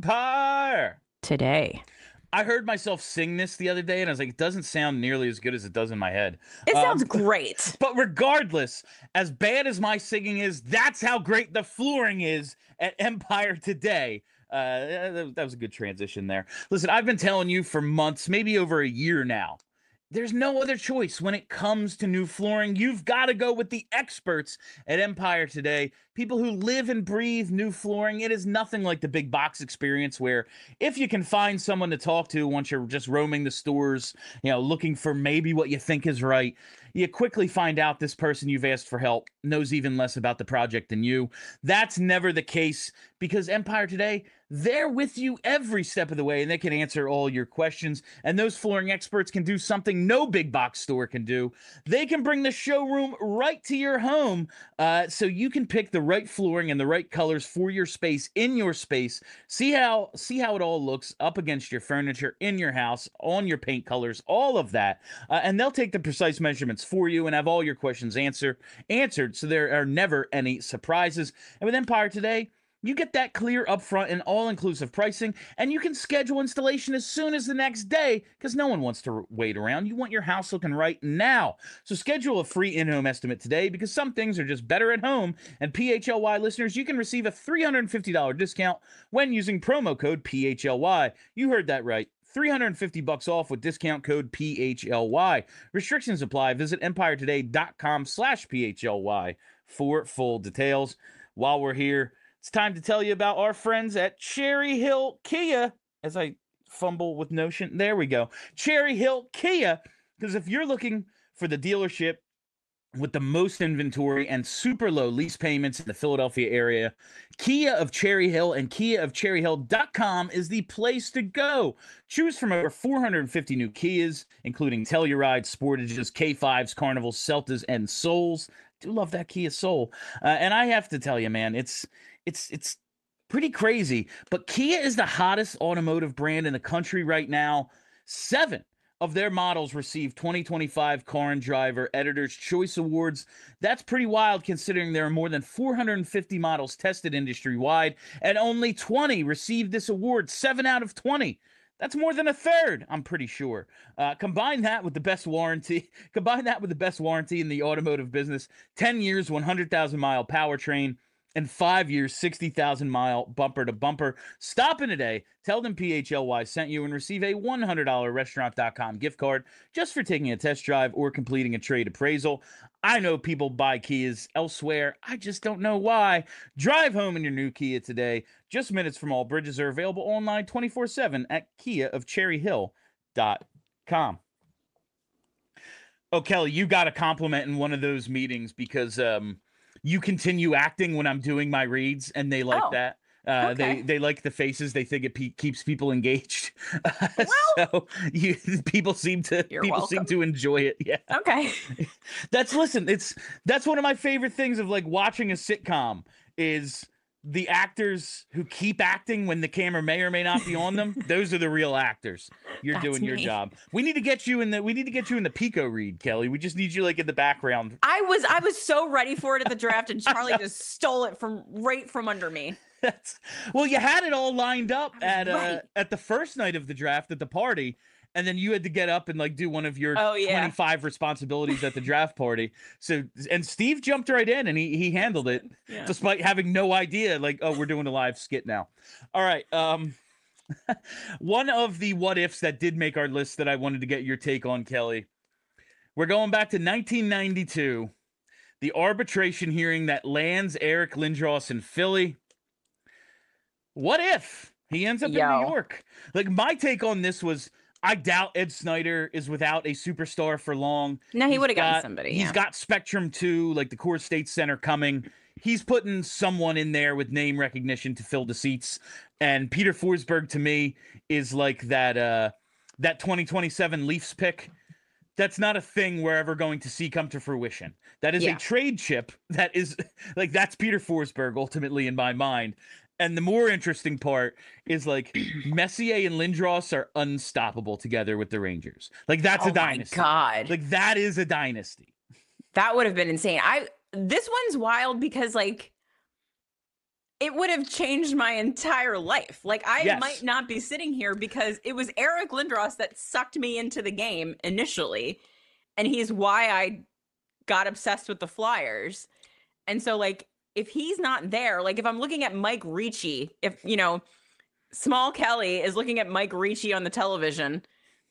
Empire. Today. I heard myself sing this the other day, and I was like, it doesn't sound nearly as good as it does in my head. It um, sounds great. But regardless, as bad as my singing is, that's how great the flooring is at Empire today. Uh, that, that was a good transition there. Listen, I've been telling you for months, maybe over a year now, there's no other choice when it comes to new flooring. You've got to go with the experts at Empire today. People who live and breathe new flooring. It is nothing like the big box experience where if you can find someone to talk to once you're just roaming the stores, you know, looking for maybe what you think is right, you quickly find out this person you've asked for help knows even less about the project than you. That's never the case because Empire today, they're with you every step of the way and they can answer all your questions. And those flooring experts can do something no big box store can do. They can bring the showroom right to your home uh, so you can pick the right flooring and the right colors for your space in your space. See how see how it all looks up against your furniture in your house, on your paint colors, all of that. Uh, and they'll take the precise measurements for you and have all your questions answer, answered so there are never any surprises. And with Empire today, you get that clear upfront and all-inclusive pricing, and you can schedule installation as soon as the next day because no one wants to wait around. You want your house looking right now. So schedule a free in-home estimate today because some things are just better at home. And P H L Y listeners, you can receive a three hundred fifty dollars discount when using promo code P H L Y. You heard that right. three hundred fifty bucks off with discount code P H L Y. Restrictions apply. Visit empiretoday.com slash PHLY for full details. While we're here, it's time to tell you about our friends at Cherry Hill Kia. As I fumble with Notion, there we go. Cherry Hill Kia, because if you're looking for the dealership with the most inventory and super low lease payments in the Philadelphia area, Kia of Cherry Hill and kia of cherry hill dot com is the place to go. Choose from over four hundred fifty new Kias, including Telluride, Sportages, K fives, Carnivals, Celtas, and Souls. I do love that Kia Soul. Uh, and I have to tell you, man, it's it's it's Pretty crazy. But Kia is the hottest automotive brand in the country right now. Seven of their models received twenty twenty-five Car and Driver Editor's Choice Awards. That's pretty wild considering there are more than four hundred fifty models tested industry-wide, and only twenty received this award. seven out of twenty. That's more than a third, I'm pretty sure. Uh, combine that with the best warranty. Combine that with the best warranty in the automotive business. ten years, one hundred thousand mile powertrain. And five years, sixty thousand mile bumper to bumper. Stop in today. Tell them P H L Y sent you and receive a one hundred dollars restaurant dot com gift card just for taking a test drive or completing a trade appraisal. I know people buy Kias elsewhere. I just don't know why. Drive home in your new Kia today. Just minutes from all bridges are available online twenty-four seven at kia of cherry hill dot com. Oh, Kelly, you got a compliment in one of those meetings because um, you continue acting when I'm doing my reads, and they like Oh, that. Uh, okay. They they like the faces. They think it pe- keeps people engaged. Well, so you, people seem to you're people seem welcome. to enjoy it. Yeah, Okay. that's listen. It's that's one of my favorite things of like watching a sitcom is the actors who keep acting when the camera may or may not be on them. Those are the real actors. You're That's doing your me. job. We need to get you in the we need to get you in the Pico read, Kelly. We just need you like in the background. I was I was so ready for it at the draft, and Charlie just stole it from right from under me. That's, well, you had it all lined up I was at uh, right. at the first night of the draft at the party, and then you had to get up and like do one of your Oh, yeah. twenty-five responsibilities at the draft party. So, and Steve jumped right in and he he handled it Yeah. despite having no idea. Like, oh, we're doing a live skit now. All right. Um, one of the what ifs that did make our list that I wanted to get your take on, Kelly. We're going back to nineteen ninety-two, the arbitration hearing that lands Eric Lindros in Philly. What if he ends up Yo. in New York? Like, my take on this was, I doubt Ed Snyder is without a superstar for long. No, he He's would have gotten got- somebody. He's yeah. got Spectrum two, like the Coors State Center coming. He's putting someone in there with name recognition to fill the seats. And Peter Forsberg, to me, is like that uh, that twenty twenty-seven Leafs pick. That's not a thing we're ever going to see come to fruition. That is Yeah. a trade chip. That is like that's Peter Forsberg ultimately in my mind. And the more interesting part is like Messier and Lindros are unstoppable together with the Rangers. Like that's oh a dynasty. my God. Like that is a dynasty. That would have been insane. I this one's wild because like it would have changed my entire life. Like I Yes. might not be sitting here because it was Eric Lindros that sucked me into the game initially, and he's why I got obsessed with the Flyers. And so like if he's not there, like if I'm looking at Mike Ricci, if you know, Small Kelly is looking at Mike Ricci on the television,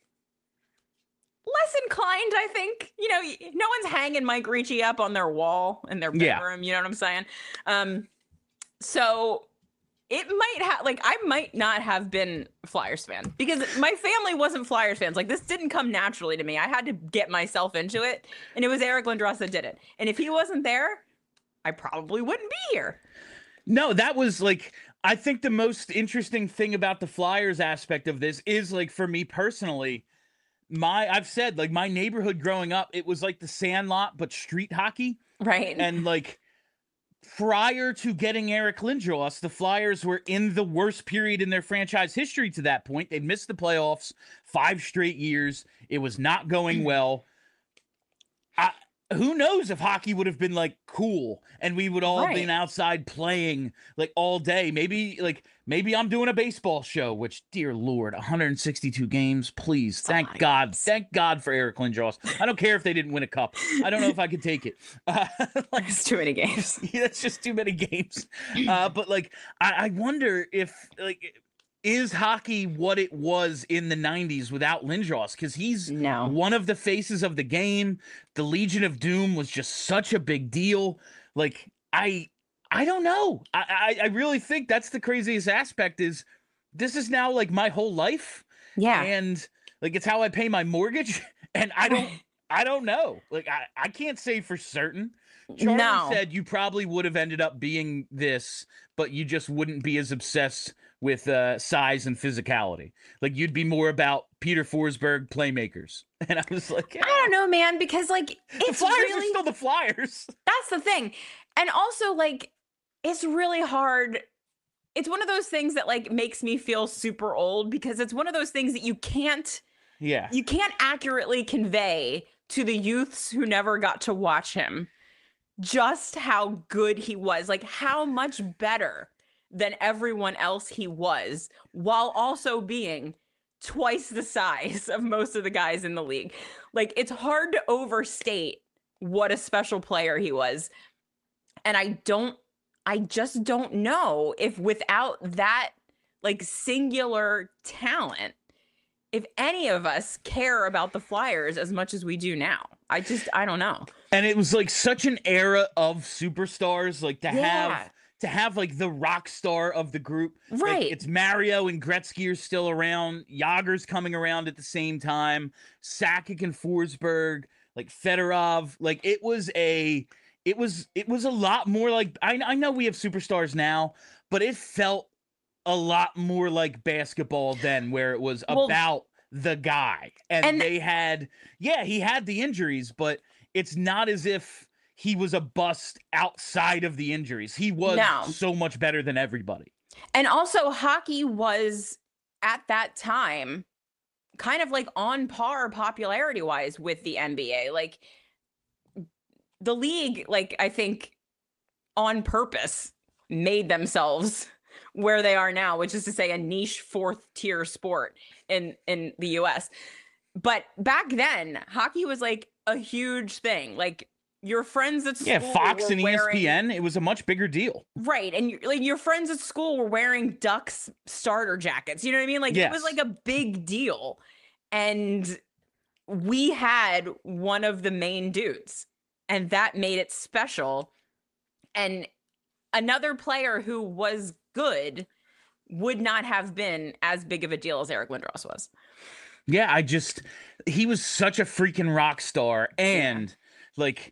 less inclined, I think. You know, y- no one's hanging Mike Ricci up on their wall in their Yeah. bedroom. You know what I'm saying? Um, so it might have, like, I might not have been a Flyers fan because my family wasn't Flyers fans. Like, this didn't come naturally to me. I had to get myself into it, and it was Eric Lindros that did it. And if he wasn't there, I probably wouldn't be here. No, that was like I think the most interesting thing about the Flyers aspect of this is like for me personally, my I've said like my neighborhood growing up, it was like the Sandlot but street hockey. Right. And like prior to getting Eric Lindros, the Flyers were in the worst period in their franchise history to that point. They'd missed the playoffs five straight years. It was not going well. I, who knows if hockey would have been like cool and we would all have Right. been outside playing like all day. Maybe like maybe I'm doing a baseball show, which dear Lord, one hundred sixty-two games, please. Thank my God. goodness. Thank God for Eric Lindros. I don't care if they didn't win a cup. I don't know if I could take it. Uh, like, There's too many games. yeah, that's just too many games. Uh, but like, I, I wonder if like, is hockey what it was in the nineties without Lindros? Because he's No. one of the faces of the game. The Legion of Doom was just such a big deal. Like, I, I don't know. I, I, I really think that's the craziest aspect. Is this is now like my whole life, Yeah. and like it's how I pay my mortgage, and I don't, I don't know. Like, I, I can't say for certain. Charlie No. said you probably would have ended up being this, but you just wouldn't be as obsessed with uh, size and physicality. Like you'd be more about Peter Forsberg playmakers. And I was like, I don't know, man, because like the it's Flyers really are still the Flyers. that's the thing. And also like it's really hard it's one of those things that like makes me feel super old because it's one of those things that you can't yeah you can't accurately convey to the youths who never got to watch him just how good he was, like how much better than everyone else he was, while also being twice the size of most of the guys in the league. Like, it's hard to overstate what a special player he was. And I don't, I just don't know if without that, like, singular talent, if any of us care about the Flyers as much as we do now. I just, I don't know. And it was like such an era of superstars, like to Yeah. have to have like the rock star of the group. Like, Right. it's Mario and Gretzky are still around. Yager's coming around at the same time. Sakic and Forsberg, like Fedorov. Like it was a, it was, it was a lot more like, I, I know we have superstars now, but it felt a lot more like basketball then, where it was Well, about the guy. And, and- they had, yeah, he had the injuries, but it's not as if he was a bust outside of the injuries. He was No. so much better than everybody. And also, hockey was at that time kind of like on par popularity wise with the N B A. Like the league, like I think on purpose made themselves where they are now, which is to say a niche fourth tier sport in, in the U S. But back then, hockey was like a huge thing. Like your friends at school, Yeah, Fox were and wearing, E S P N, it was a much bigger deal. right? And you, like your friends at school were wearing Ducks starter jackets. You know what I mean? Like it was Yes. like a big deal, and we had one of the main dudes, and that made it special. And another player who was good would not have been as big of a deal as Eric Lindros was. Yeah, I just, he was such a freaking rock star. And like,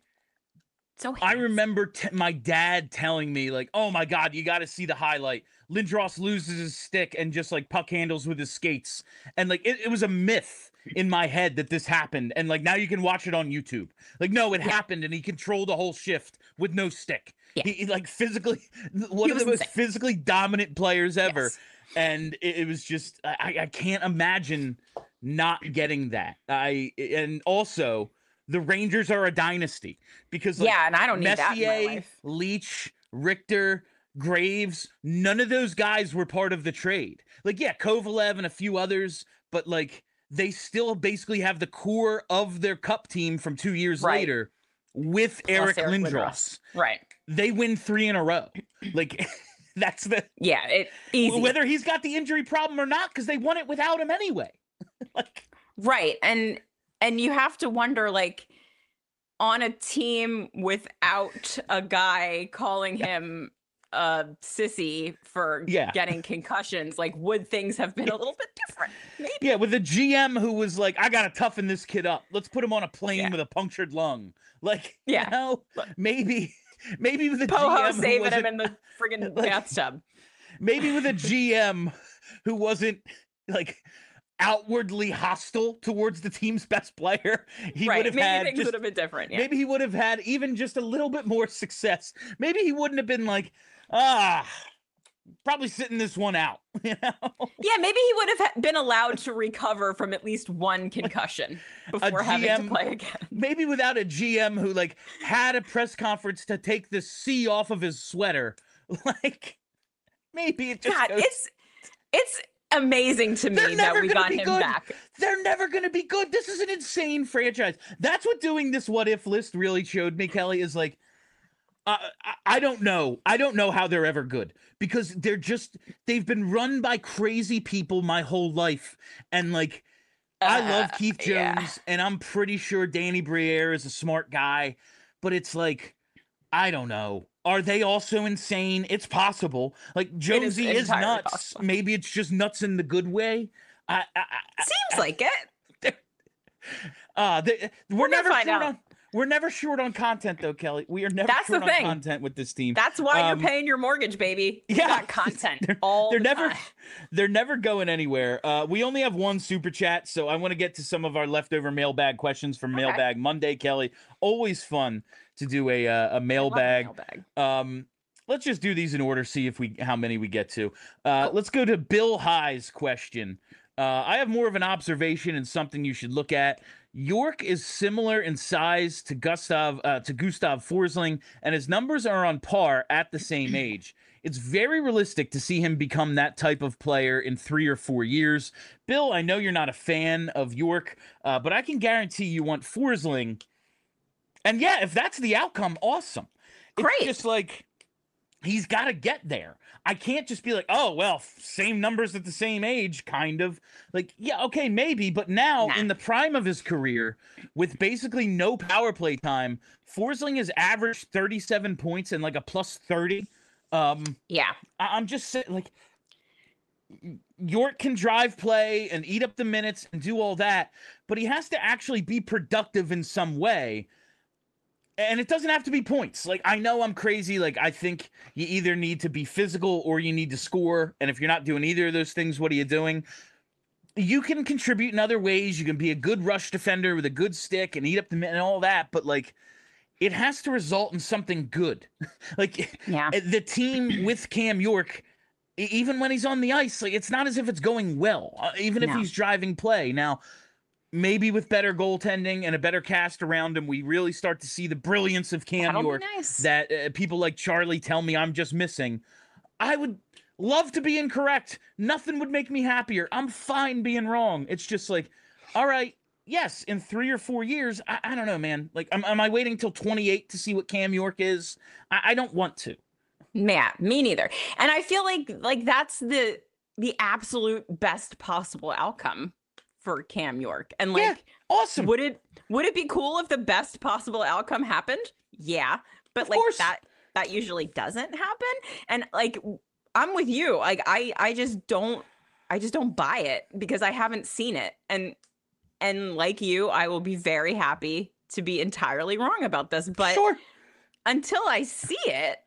So I handsome. remember t- my dad telling me, like, oh my God, you got to see the highlight. Lindros loses his stick and just like puck handles with his skates. And like, it, it was a myth in my head that this happened. And like, now you can watch it on YouTube. Like, no, it Yeah. happened. And he controlled the whole shift with no stick. Yeah. He, he, like physically, one He of the was most insane. physically dominant players ever. Yes. And it, it was just, I, I can't imagine not getting that. I, and also, the Rangers are a dynasty because like, Yeah, and I don't need that in my Messier, life. Leach, Richter, Graves, none of those guys were part of the trade. Like, yeah, Kovalev and a few others, but like they still basically have the core of their cup team from two years Right. later with Plus Eric, Eric Lindros. Lindros. Right. They win three in a row. Like, that's the Yeah, it easy. whether he's got the injury problem or not, because they won it without him anyway. Like, Right. And and you have to wonder, like, on a team without a guy calling him a sissy for Yeah. getting concussions, like, would things have been a little bit different? Maybe. yeah, with a G M who was like, I gotta toughen this kid up. Let's put him on a plane Yeah. with a punctured lung. Like, Yeah. you know, maybe, maybe with a Poho G M who saving wasn't, him in the friggin' like- bathtub. maybe with a G M who wasn't like outwardly hostile towards the team's best player. He Right. would have Maybe had things just, would have been different. Yeah. maybe he would have had even just a little bit more success. Maybe he wouldn't have been like, ah, probably sitting this one out. You know, Yeah, maybe he would have ha- been allowed to recover from at least one concussion before having G M to play again. maybe without a G M who like had a press conference to take the C off of his sweater. Like, maybe it just God, goes- it's it's amazing to They're me never that we gonna got be him good. back. They're never going to be good. This is an insane franchise. That's what doing this what if list really showed me, Kelly, is like, uh, I, I don't know. I don't know how they're ever good because they're just, they've been run by crazy people my whole life. And like, I love Uh, Keith Jones yeah. and I'm pretty sure Danny Briere is a smart guy, but it's like, I don't know. Are they also insane? It's possible. Like Jonesy is, entirely nuts. possible. Maybe it's just nuts in the good way. I, I, I Seems like it. uh, they, we're, We're gonna never find short out. on. We're never short on content, though, Kelly. We are never That's the short on thing. content with this team. That's why Um, you're paying your mortgage, baby. You yeah. got content They're- all they're the never, time. they're never going anywhere. Uh, we only have one super chat, so I want to get to some of our leftover mailbag questions from Okay. Mailbag Monday, Kelly. Always fun to do a uh, a I love a mailbag. mailbag. Um, let's just do these in order, see if we how many we get to. Uh, let's go to Bill High's question. Uh, I have more of an observation and something you should look at. York is similar in size to Gustav uh, to Gustav Forsling, and his numbers are on par at the same age. It's very realistic to see him become that type of player in three or four years. Bill, I know you're not a fan of York, uh, but I can guarantee you want Forsling. And yeah, if that's the outcome, awesome. Great. It's just like he's got to get there. I can't just be like, oh, well, same numbers at the same age, kind of. Like, yeah, okay, maybe. But now, nah. in the prime of his career, with basically no power play time, Forsling has averaged thirty-seven points and like a plus thirty. Um, yeah. I- I'm just saying, like, York can drive play and eat up the minutes and do all that, but he has to actually be productive in some way. And it doesn't have to be points. Like, I know I'm crazy. Like, I think you either need to be physical or you need to score. And if you're not doing either of those things, what are you doing? You can contribute in other ways. You can be a good rush defender with a good stick and eat up the minute and all that. But, like, it has to result in something good. Like, yeah. the team with Cam York, even when he's on the ice, like, it's not as if it's going well, uh, even if no. he's driving play. Now, maybe with better goaltending and a better cast around him, we really start to see the brilliance of Cam That'll York nice. that uh, people like Charlie tell me I'm just missing. I would love to be incorrect. Nothing would make me happier. I'm fine being wrong. It's just like, all right, yes, in three or four years, I, I don't know, man. Like, am, am I waiting until twenty-eight to see what Cam York is? I, I don't want to. Yeah, me neither. And I feel like like that's the the absolute best possible outcome for Cam York. And like, yeah, awesome. Would it would it be cool if the best possible outcome happened? Yeah, but of like course. that that usually doesn't happen. And like, I'm with you. Like, I I just don't I just don't buy it because I haven't seen it. And and like you, I will be very happy to be entirely wrong about this. But sure. until I see it,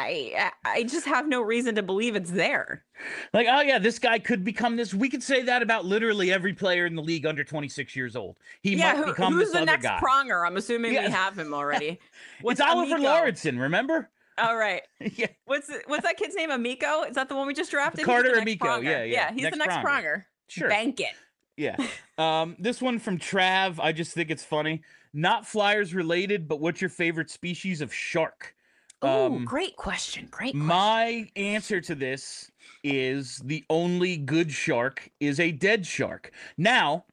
I I just have no reason to believe it's there. Like, oh yeah, this guy could become this. We could say that about literally every player in the league under twenty-six years old. He yeah, might who, become who's this the other next guy. Pronger? I'm assuming Yeah. we have him already. It's Oliver Amico? Lauritsen, remember? All right. Yeah. What's what's that kid's name? Amico? Is that the one we just drafted? He's Carter the next Amico. Pronger. Yeah, yeah. Yeah, he's Next the next Pronger. Pronger. Sure. Bank it. Yeah. Um, this one from Trav, I just think it's funny. Not Flyers related, but what's your favorite species of shark? Oh, Um, great question. Great question. My answer to this is the only good shark is a dead shark. Now,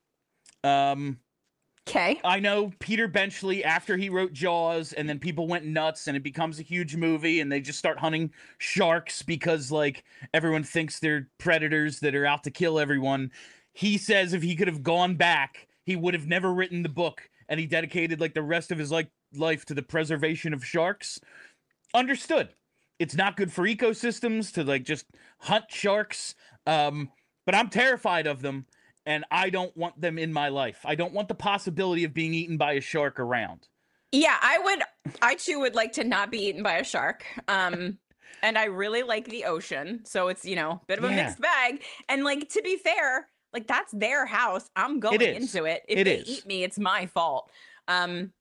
um, Okay. I know Peter Benchley, after he wrote Jaws, and then people went nuts, and it becomes a huge movie, and they just start hunting sharks because, like, everyone thinks they're predators that are out to kill everyone. He says if he could have gone back, he would have never written the book, and he dedicated, like, the rest of his like life to the preservation of sharks. Understood. It's not good for ecosystems to, like, just hunt sharks, um, but I'm terrified of them. And I don't want them in my life. I don't want the possibility of being eaten by a shark around. Yeah, I would. I too would like to not be eaten by a shark. Um, and I really like the ocean, so it's, you know, a bit of a Yeah. mixed bag. And like, to be fair, like, that's their house. I'm going It is. into it. If It they is. eat me, it's my fault. Um,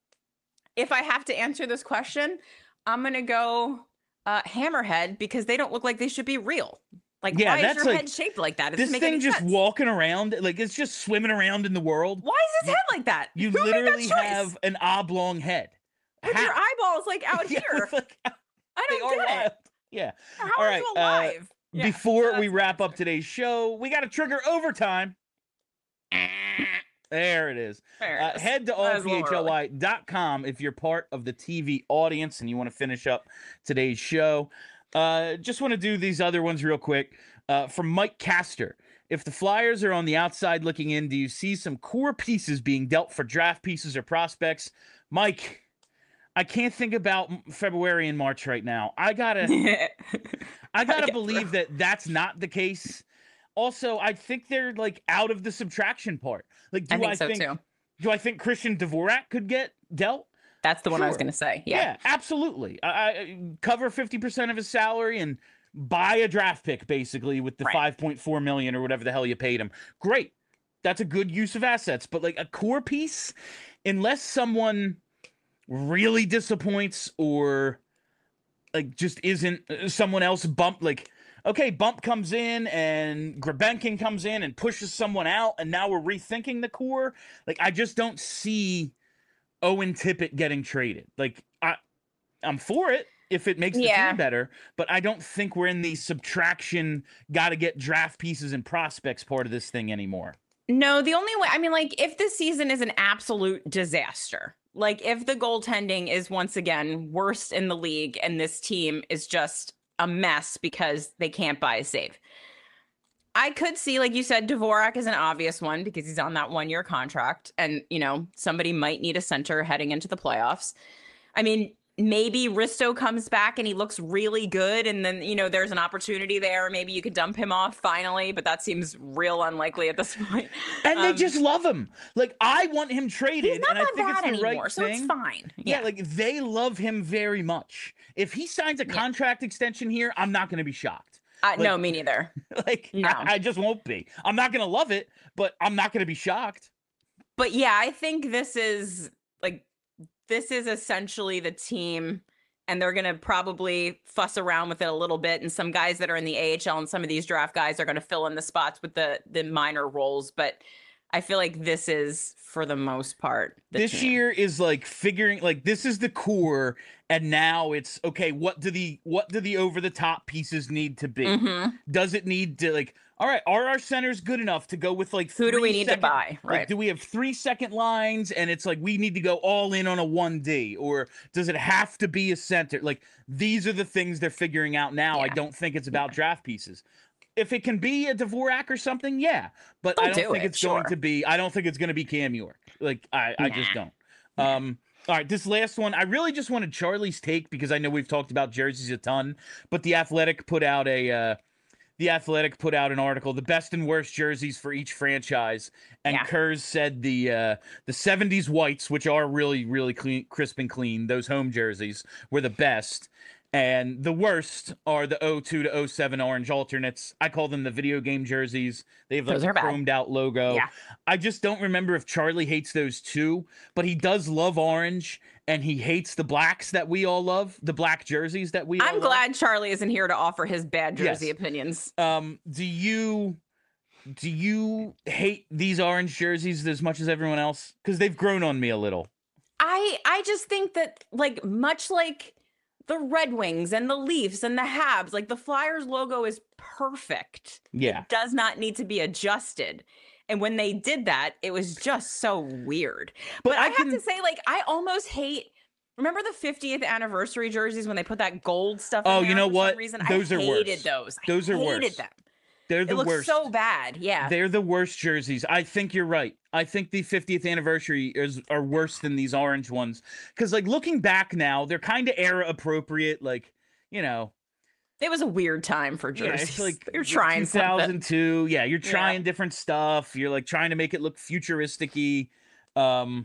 if I have to answer this question, I'm gonna go uh, hammerhead because they don't look like they should be real. Like, Yeah, why is that's your like- head shaped like that? It This doesn't make thing any just sense. walking around, like, it's just swimming around in the world. Why is his You- head like that? You Who made that literally choice? have an oblong head. With your How? eyeballs like out Yeah, here. with, like, I they don't are get wild. it. Yeah. How All are right, you uh, alive? Yeah, Before that's we my wrap up answer. today's show, we got to trigger overtime. There it is. There it Uh, is. head to That all was a p little h l y dot com if you're part of the T V audience and you want to finish up today's show. Uh, just want to do these other ones real quick. Uh, from Mike Castor. If the Flyers are on the outside looking in, do you see some core pieces being dealt for draft pieces or prospects? Mike, I can't think about m- February and March right now. I gotta, I gotta get believe through. that that's not the case. Also, I think they're like out of the subtraction part. Like, do I think I so think too. do I think Christian Dvorak could get dealt? That's the one I was Sure. going to say. Yeah. absolutely. I, I cover fifty percent of his salary and buy a draft pick basically with the Right. five point four million or whatever the hell you paid him. Great. That's a good use of assets, but like a core piece, unless someone really disappoints or like just isn't someone else bump like. Okay, Bump comes in and Grabenkin comes in and pushes someone out, and now we're rethinking the core. Like, I just don't see Owen Tippett getting traded. Like, I, I'm for it if it makes the Yeah. team better, but I don't think we're in the subtraction, got to get draft pieces and prospects part of this thing anymore. No, the only way, I mean, like, if this season is an absolute disaster, like, if the goaltending is once again worst in the league and this team is just a mess because they can't buy a save. I could see, like you said, Dvorak is an obvious one because he's on that one-year contract, and you know somebody might need a center heading into the playoffs. I mean, maybe Risto comes back and he looks really good, and then you know there's an opportunity there. Maybe you could dump him off finally, but that seems real unlikely at this point. And Um, they just love him. Like, I want him traded, He's not and I that think it's bad the anymore, right so thing. it's fine. Yeah. Yeah, like they love him very much. If he signs a Yeah. contract extension here, I'm not going to be shocked. uh, like- no, me neither. Like, No. I, I just won't be. I'm not going to love it, but I'm not going to be shocked. But yeah, I think this is like this is essentially the team, and they're gonna probably fuss around with it a little bit. And some guys that are in the A H L and some of these draft guys are gonna fill in the spots with the the minor roles. But I feel like this is, for the most part, the This team. year is like figuring like this is the core, and now it's okay. What do the what do the over the top pieces need to be? Mhm. Does it need to like? All right, are our centers good enough to go with like? Who do we three need to second- buy? Like, Right. do we have three second lines, and it's like we need to go all in on a one D, or does it have to be a center? Like these are the things they're figuring out now. I Yeah. don't think it's about draft pieces. If it can be a Dvorak or something, yeah, but They'll I don't do think it, it's going sure. to be. I don't think it's going to be Cam York. Like I, I just Nah. don't. Um, all right, this last one, I really just wanted Charlie's take because I know we've talked about jerseys a ton, but the Athletic put out a. Uh, The Athletic put out an article, the best and worst jerseys for each franchise, and Yeah. Kurz said the uh, the seventies whites, which are really really clean, crisp and clean, those home jerseys were the best, and the worst are the oh two to oh seven orange alternates. I call them the video game jerseys. They have like Those a are bad. chromed out logo. Yeah. I just don't remember if Charlie hates those too, but he does love orange, and he hates the blacks that we all love, the black jerseys that we all I'm love. glad Charlie isn't here to offer his bad jersey Yes. opinions. Um, do you do you hate these orange jerseys as much as everyone else? Because they've grown on me a little. I I just think that, like, much like the Red Wings and the Leafs and the Habs, like the Flyers logo is perfect. Yeah. It does not need to be adjusted. And when they did that, it was just so weird. But, But I, I have can- to say, like, I almost hate. Remember the fiftieth anniversary jerseys when they put that gold stuff? in Oh, there you know for what? Some reason? Those I are hated worse. those. I Those are hated worse. them. They're the It looks worst. so bad. Yeah. They're the worst jerseys. I think you're right. I think the fiftieth anniversary is are worse than these orange ones. Because like looking back now, they're kind of era appropriate. Like, you know, It was a weird time for yeah, jerseys. it's like You're trying something. two thousand two. Yeah, you're Yeah. trying different stuff. You're like trying to make it look futuristic-y. Um,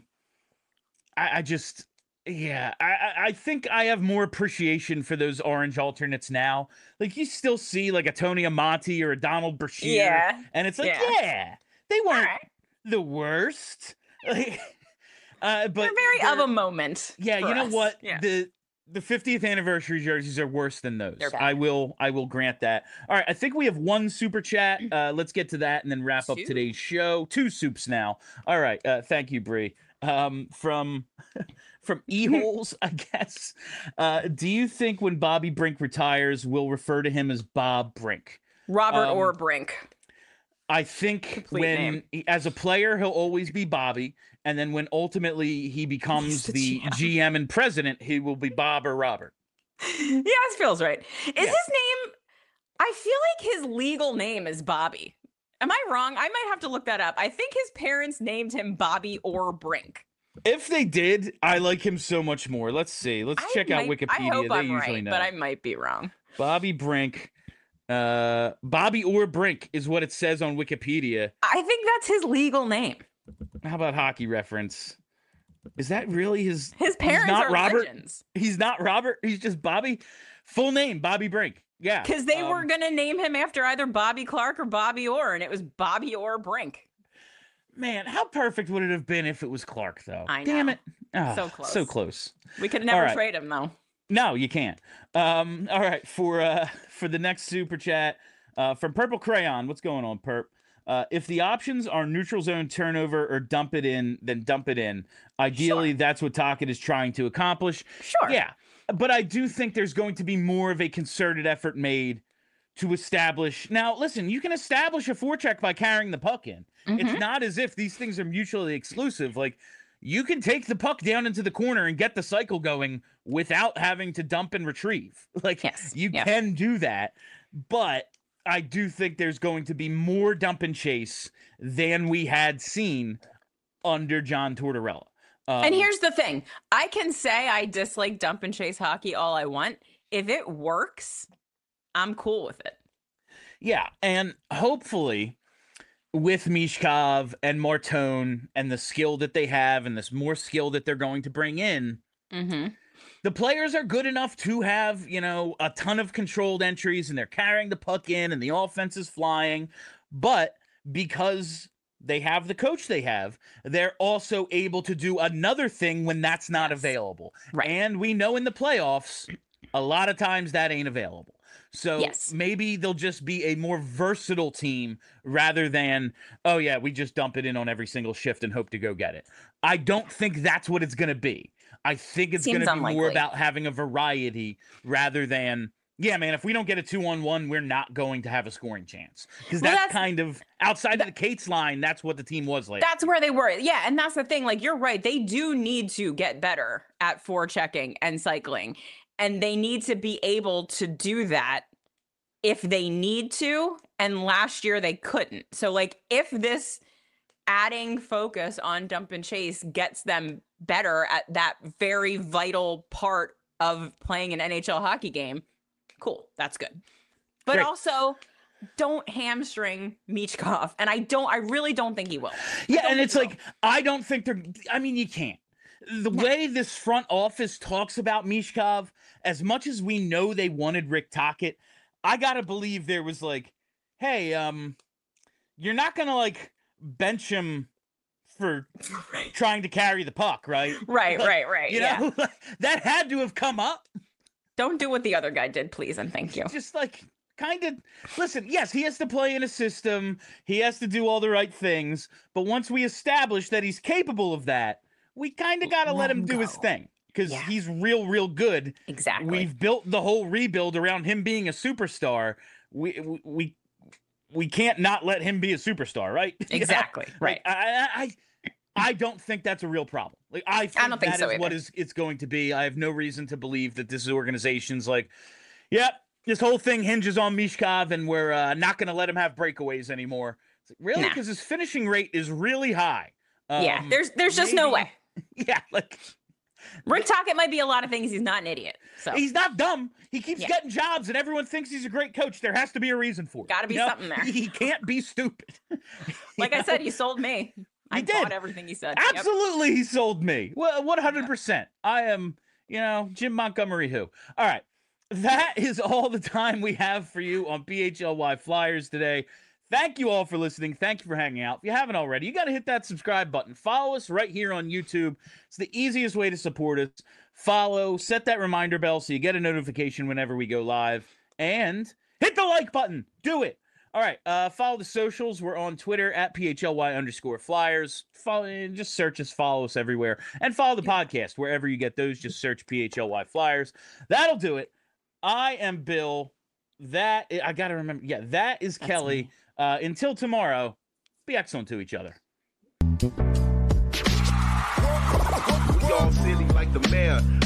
I, I just, yeah, I, I- I think I have more appreciation for those orange alternates now. Like you still see like a Tony Amonte or a Donald Brashear, Yeah. and it's like, Yeah. yeah, they All weren't right. the worst. Like, uh, but They're very they're- of a moment. yeah, for you know us. what? Yeah. The the fiftieth anniversary jerseys are worse than those. They're bad. I will I will grant that. All right, I think we have one super chat. Uh, let's get to that and then wrap up Two. today's show. Two soups now. All right, uh, thank you, Bree. Um, from from E-holes, I guess. Uh, do you think when Bobby Brink retires, we'll refer to him as Bob Brink? Robert um, or Brink. I think Complete when name. he- as a player he'll always be Bobby, and then when ultimately he becomes the the G M. G M and president, he will be Bob or Robert. Yeah, this feels right. Is Yeah. his name? I feel like his legal name is Bobby. Am I wrong? I might have to look that up. I think his parents named him Bobby or Brink. If they did, I like him so much more. Let's see. Let's I check out might- Wikipedia. I hope they I'm usually right, know. but I might be wrong. Bobby Brink. Uh, Bobby or Brink is what it says on Wikipedia. I think that's his legal name. How about Hockey Reference? Is that really his? His parents not are Robert? legends He's not Robert. He's just Bobby. Full name Bobby Brink. Yeah, because they um, were gonna name him after either Bobby Clark or Bobby Orr, and it was Bobby Orr Brink. Man, how perfect would it have been if it was Clark, though? I Damn know. it. Ah, So close. So close. We could never right. trade him though. No, you can't. Um, all right, for uh, for the next super chat uh, from Purple Crayon. What's going on, Perp? Uh, if the options are neutral zone turnover or dump it in, then dump it in. Ideally, sure. That's what Tocchet is trying to accomplish. Sure. Yeah, but I do think there's going to be more of a concerted effort made to establish. Now, listen, you can establish a forecheck by carrying the puck in. Mm-hmm. It's not as if these things are mutually exclusive. Like, you can take the puck down into the corner and get the cycle going without having to dump and retrieve. Like, yes. you yes. can do that, but I do think there's going to be more dump and chase than we had seen under John Tortorella. Um, and here's the thing. I can say I dislike dump and chase hockey all I want. If it works, I'm cool with it. Yeah, and hopefully with Michkov and Martone and the skill that they have and this more skill that they're going to bring in, mm-hmm. the players are good enough to have, you know, a ton of controlled entries and they're carrying the puck in and the offense is flying. But because they have the coach they have, they're also able to do another thing when that's not yes. available. Right. And we know in the playoffs, a lot of times that ain't available. So yes. maybe they'll just be a more versatile team rather than, oh, yeah, we just dump it in on every single shift and hope to go get it. I don't think that's what it's going to be. I think it's going to be unlikely. more about having a variety rather than, yeah, man, if we don't get a two-on-one, we're not going to have a scoring chance. Because well, that's, that's kind of outside that, of the Cates line, that's what the team was like. That's where they were. Yeah, and that's the thing. Like, you're right. They do need to get better at forechecking and cycling. And they need to be able to do that if they need to. And last year they couldn't. So, like, if this adding focus on dump and chase gets them better at that very vital part of playing an N H L hockey game, cool. That's good. But Great. Also, don't hamstring Michkov. And I don't, I really don't think he will. Yeah, and it's like, will. I don't think they're, I mean, you can't. The no. way this front office talks about Michkov, as much as we know they wanted Rick Tocchet, I gotta believe there was like, hey, um, you're not gonna like bench him for right. trying to carry the puck, right? Right, like, right, right. You yeah. know, that had to have come up. Don't do what the other guy did, please, and thank you. Just like, kind of, listen, yes, he has to play in a system. He has to do all the right things. But once we establish that he's capable of that, we kind of got to let him do his thing. Because yeah. he's real, real good. Exactly. We've built the whole rebuild around him being a superstar. We we we can't not let him be a superstar, right? Exactly. Right. I, I I don't think that's a real problem. Like I think I don't think that so is either. what is it's going to be. I have no reason to believe that this organization's like, yep, this whole thing hinges on Michkov, and we're uh, not going to let him have breakaways anymore. Like, really? Because nah. his finishing rate is really high. Um, yeah. There's there's just maybe, no way. Yeah. Like. Rick Tocchet might be a lot of things. He's not an idiot. So he's not dumb. He keeps yeah. getting jobs, and everyone thinks he's a great coach. There has to be a reason for it. Got to be you know? something there. He can't be stupid. Like I said, he sold me. I did. bought everything he said. Absolutely, yep. he sold me. Well, one hundred percent. I am, you know, Jim Montgomery who. All right. That is all the time we have for you on P H L Y Flyers today. Thank you all for listening. Thank you for hanging out. If you haven't already, you got to hit that subscribe button. Follow us right here on YouTube. It's the easiest way to support us. Follow, set that reminder bell so you get a notification whenever we go live. And hit the like button. Do it. All right. Uh, follow the socials. We're on Twitter at P H L Y underscore Flyers. Follow, just search us. Follow us everywhere. And follow the podcast. Wherever you get those, just search P H L Y Flyers. That'll do it. I am Bill. That I got to remember. Yeah, that is That's Kelly. Me. Uh, until tomorrow, be excellent to each other. Y'all silly like the mayor.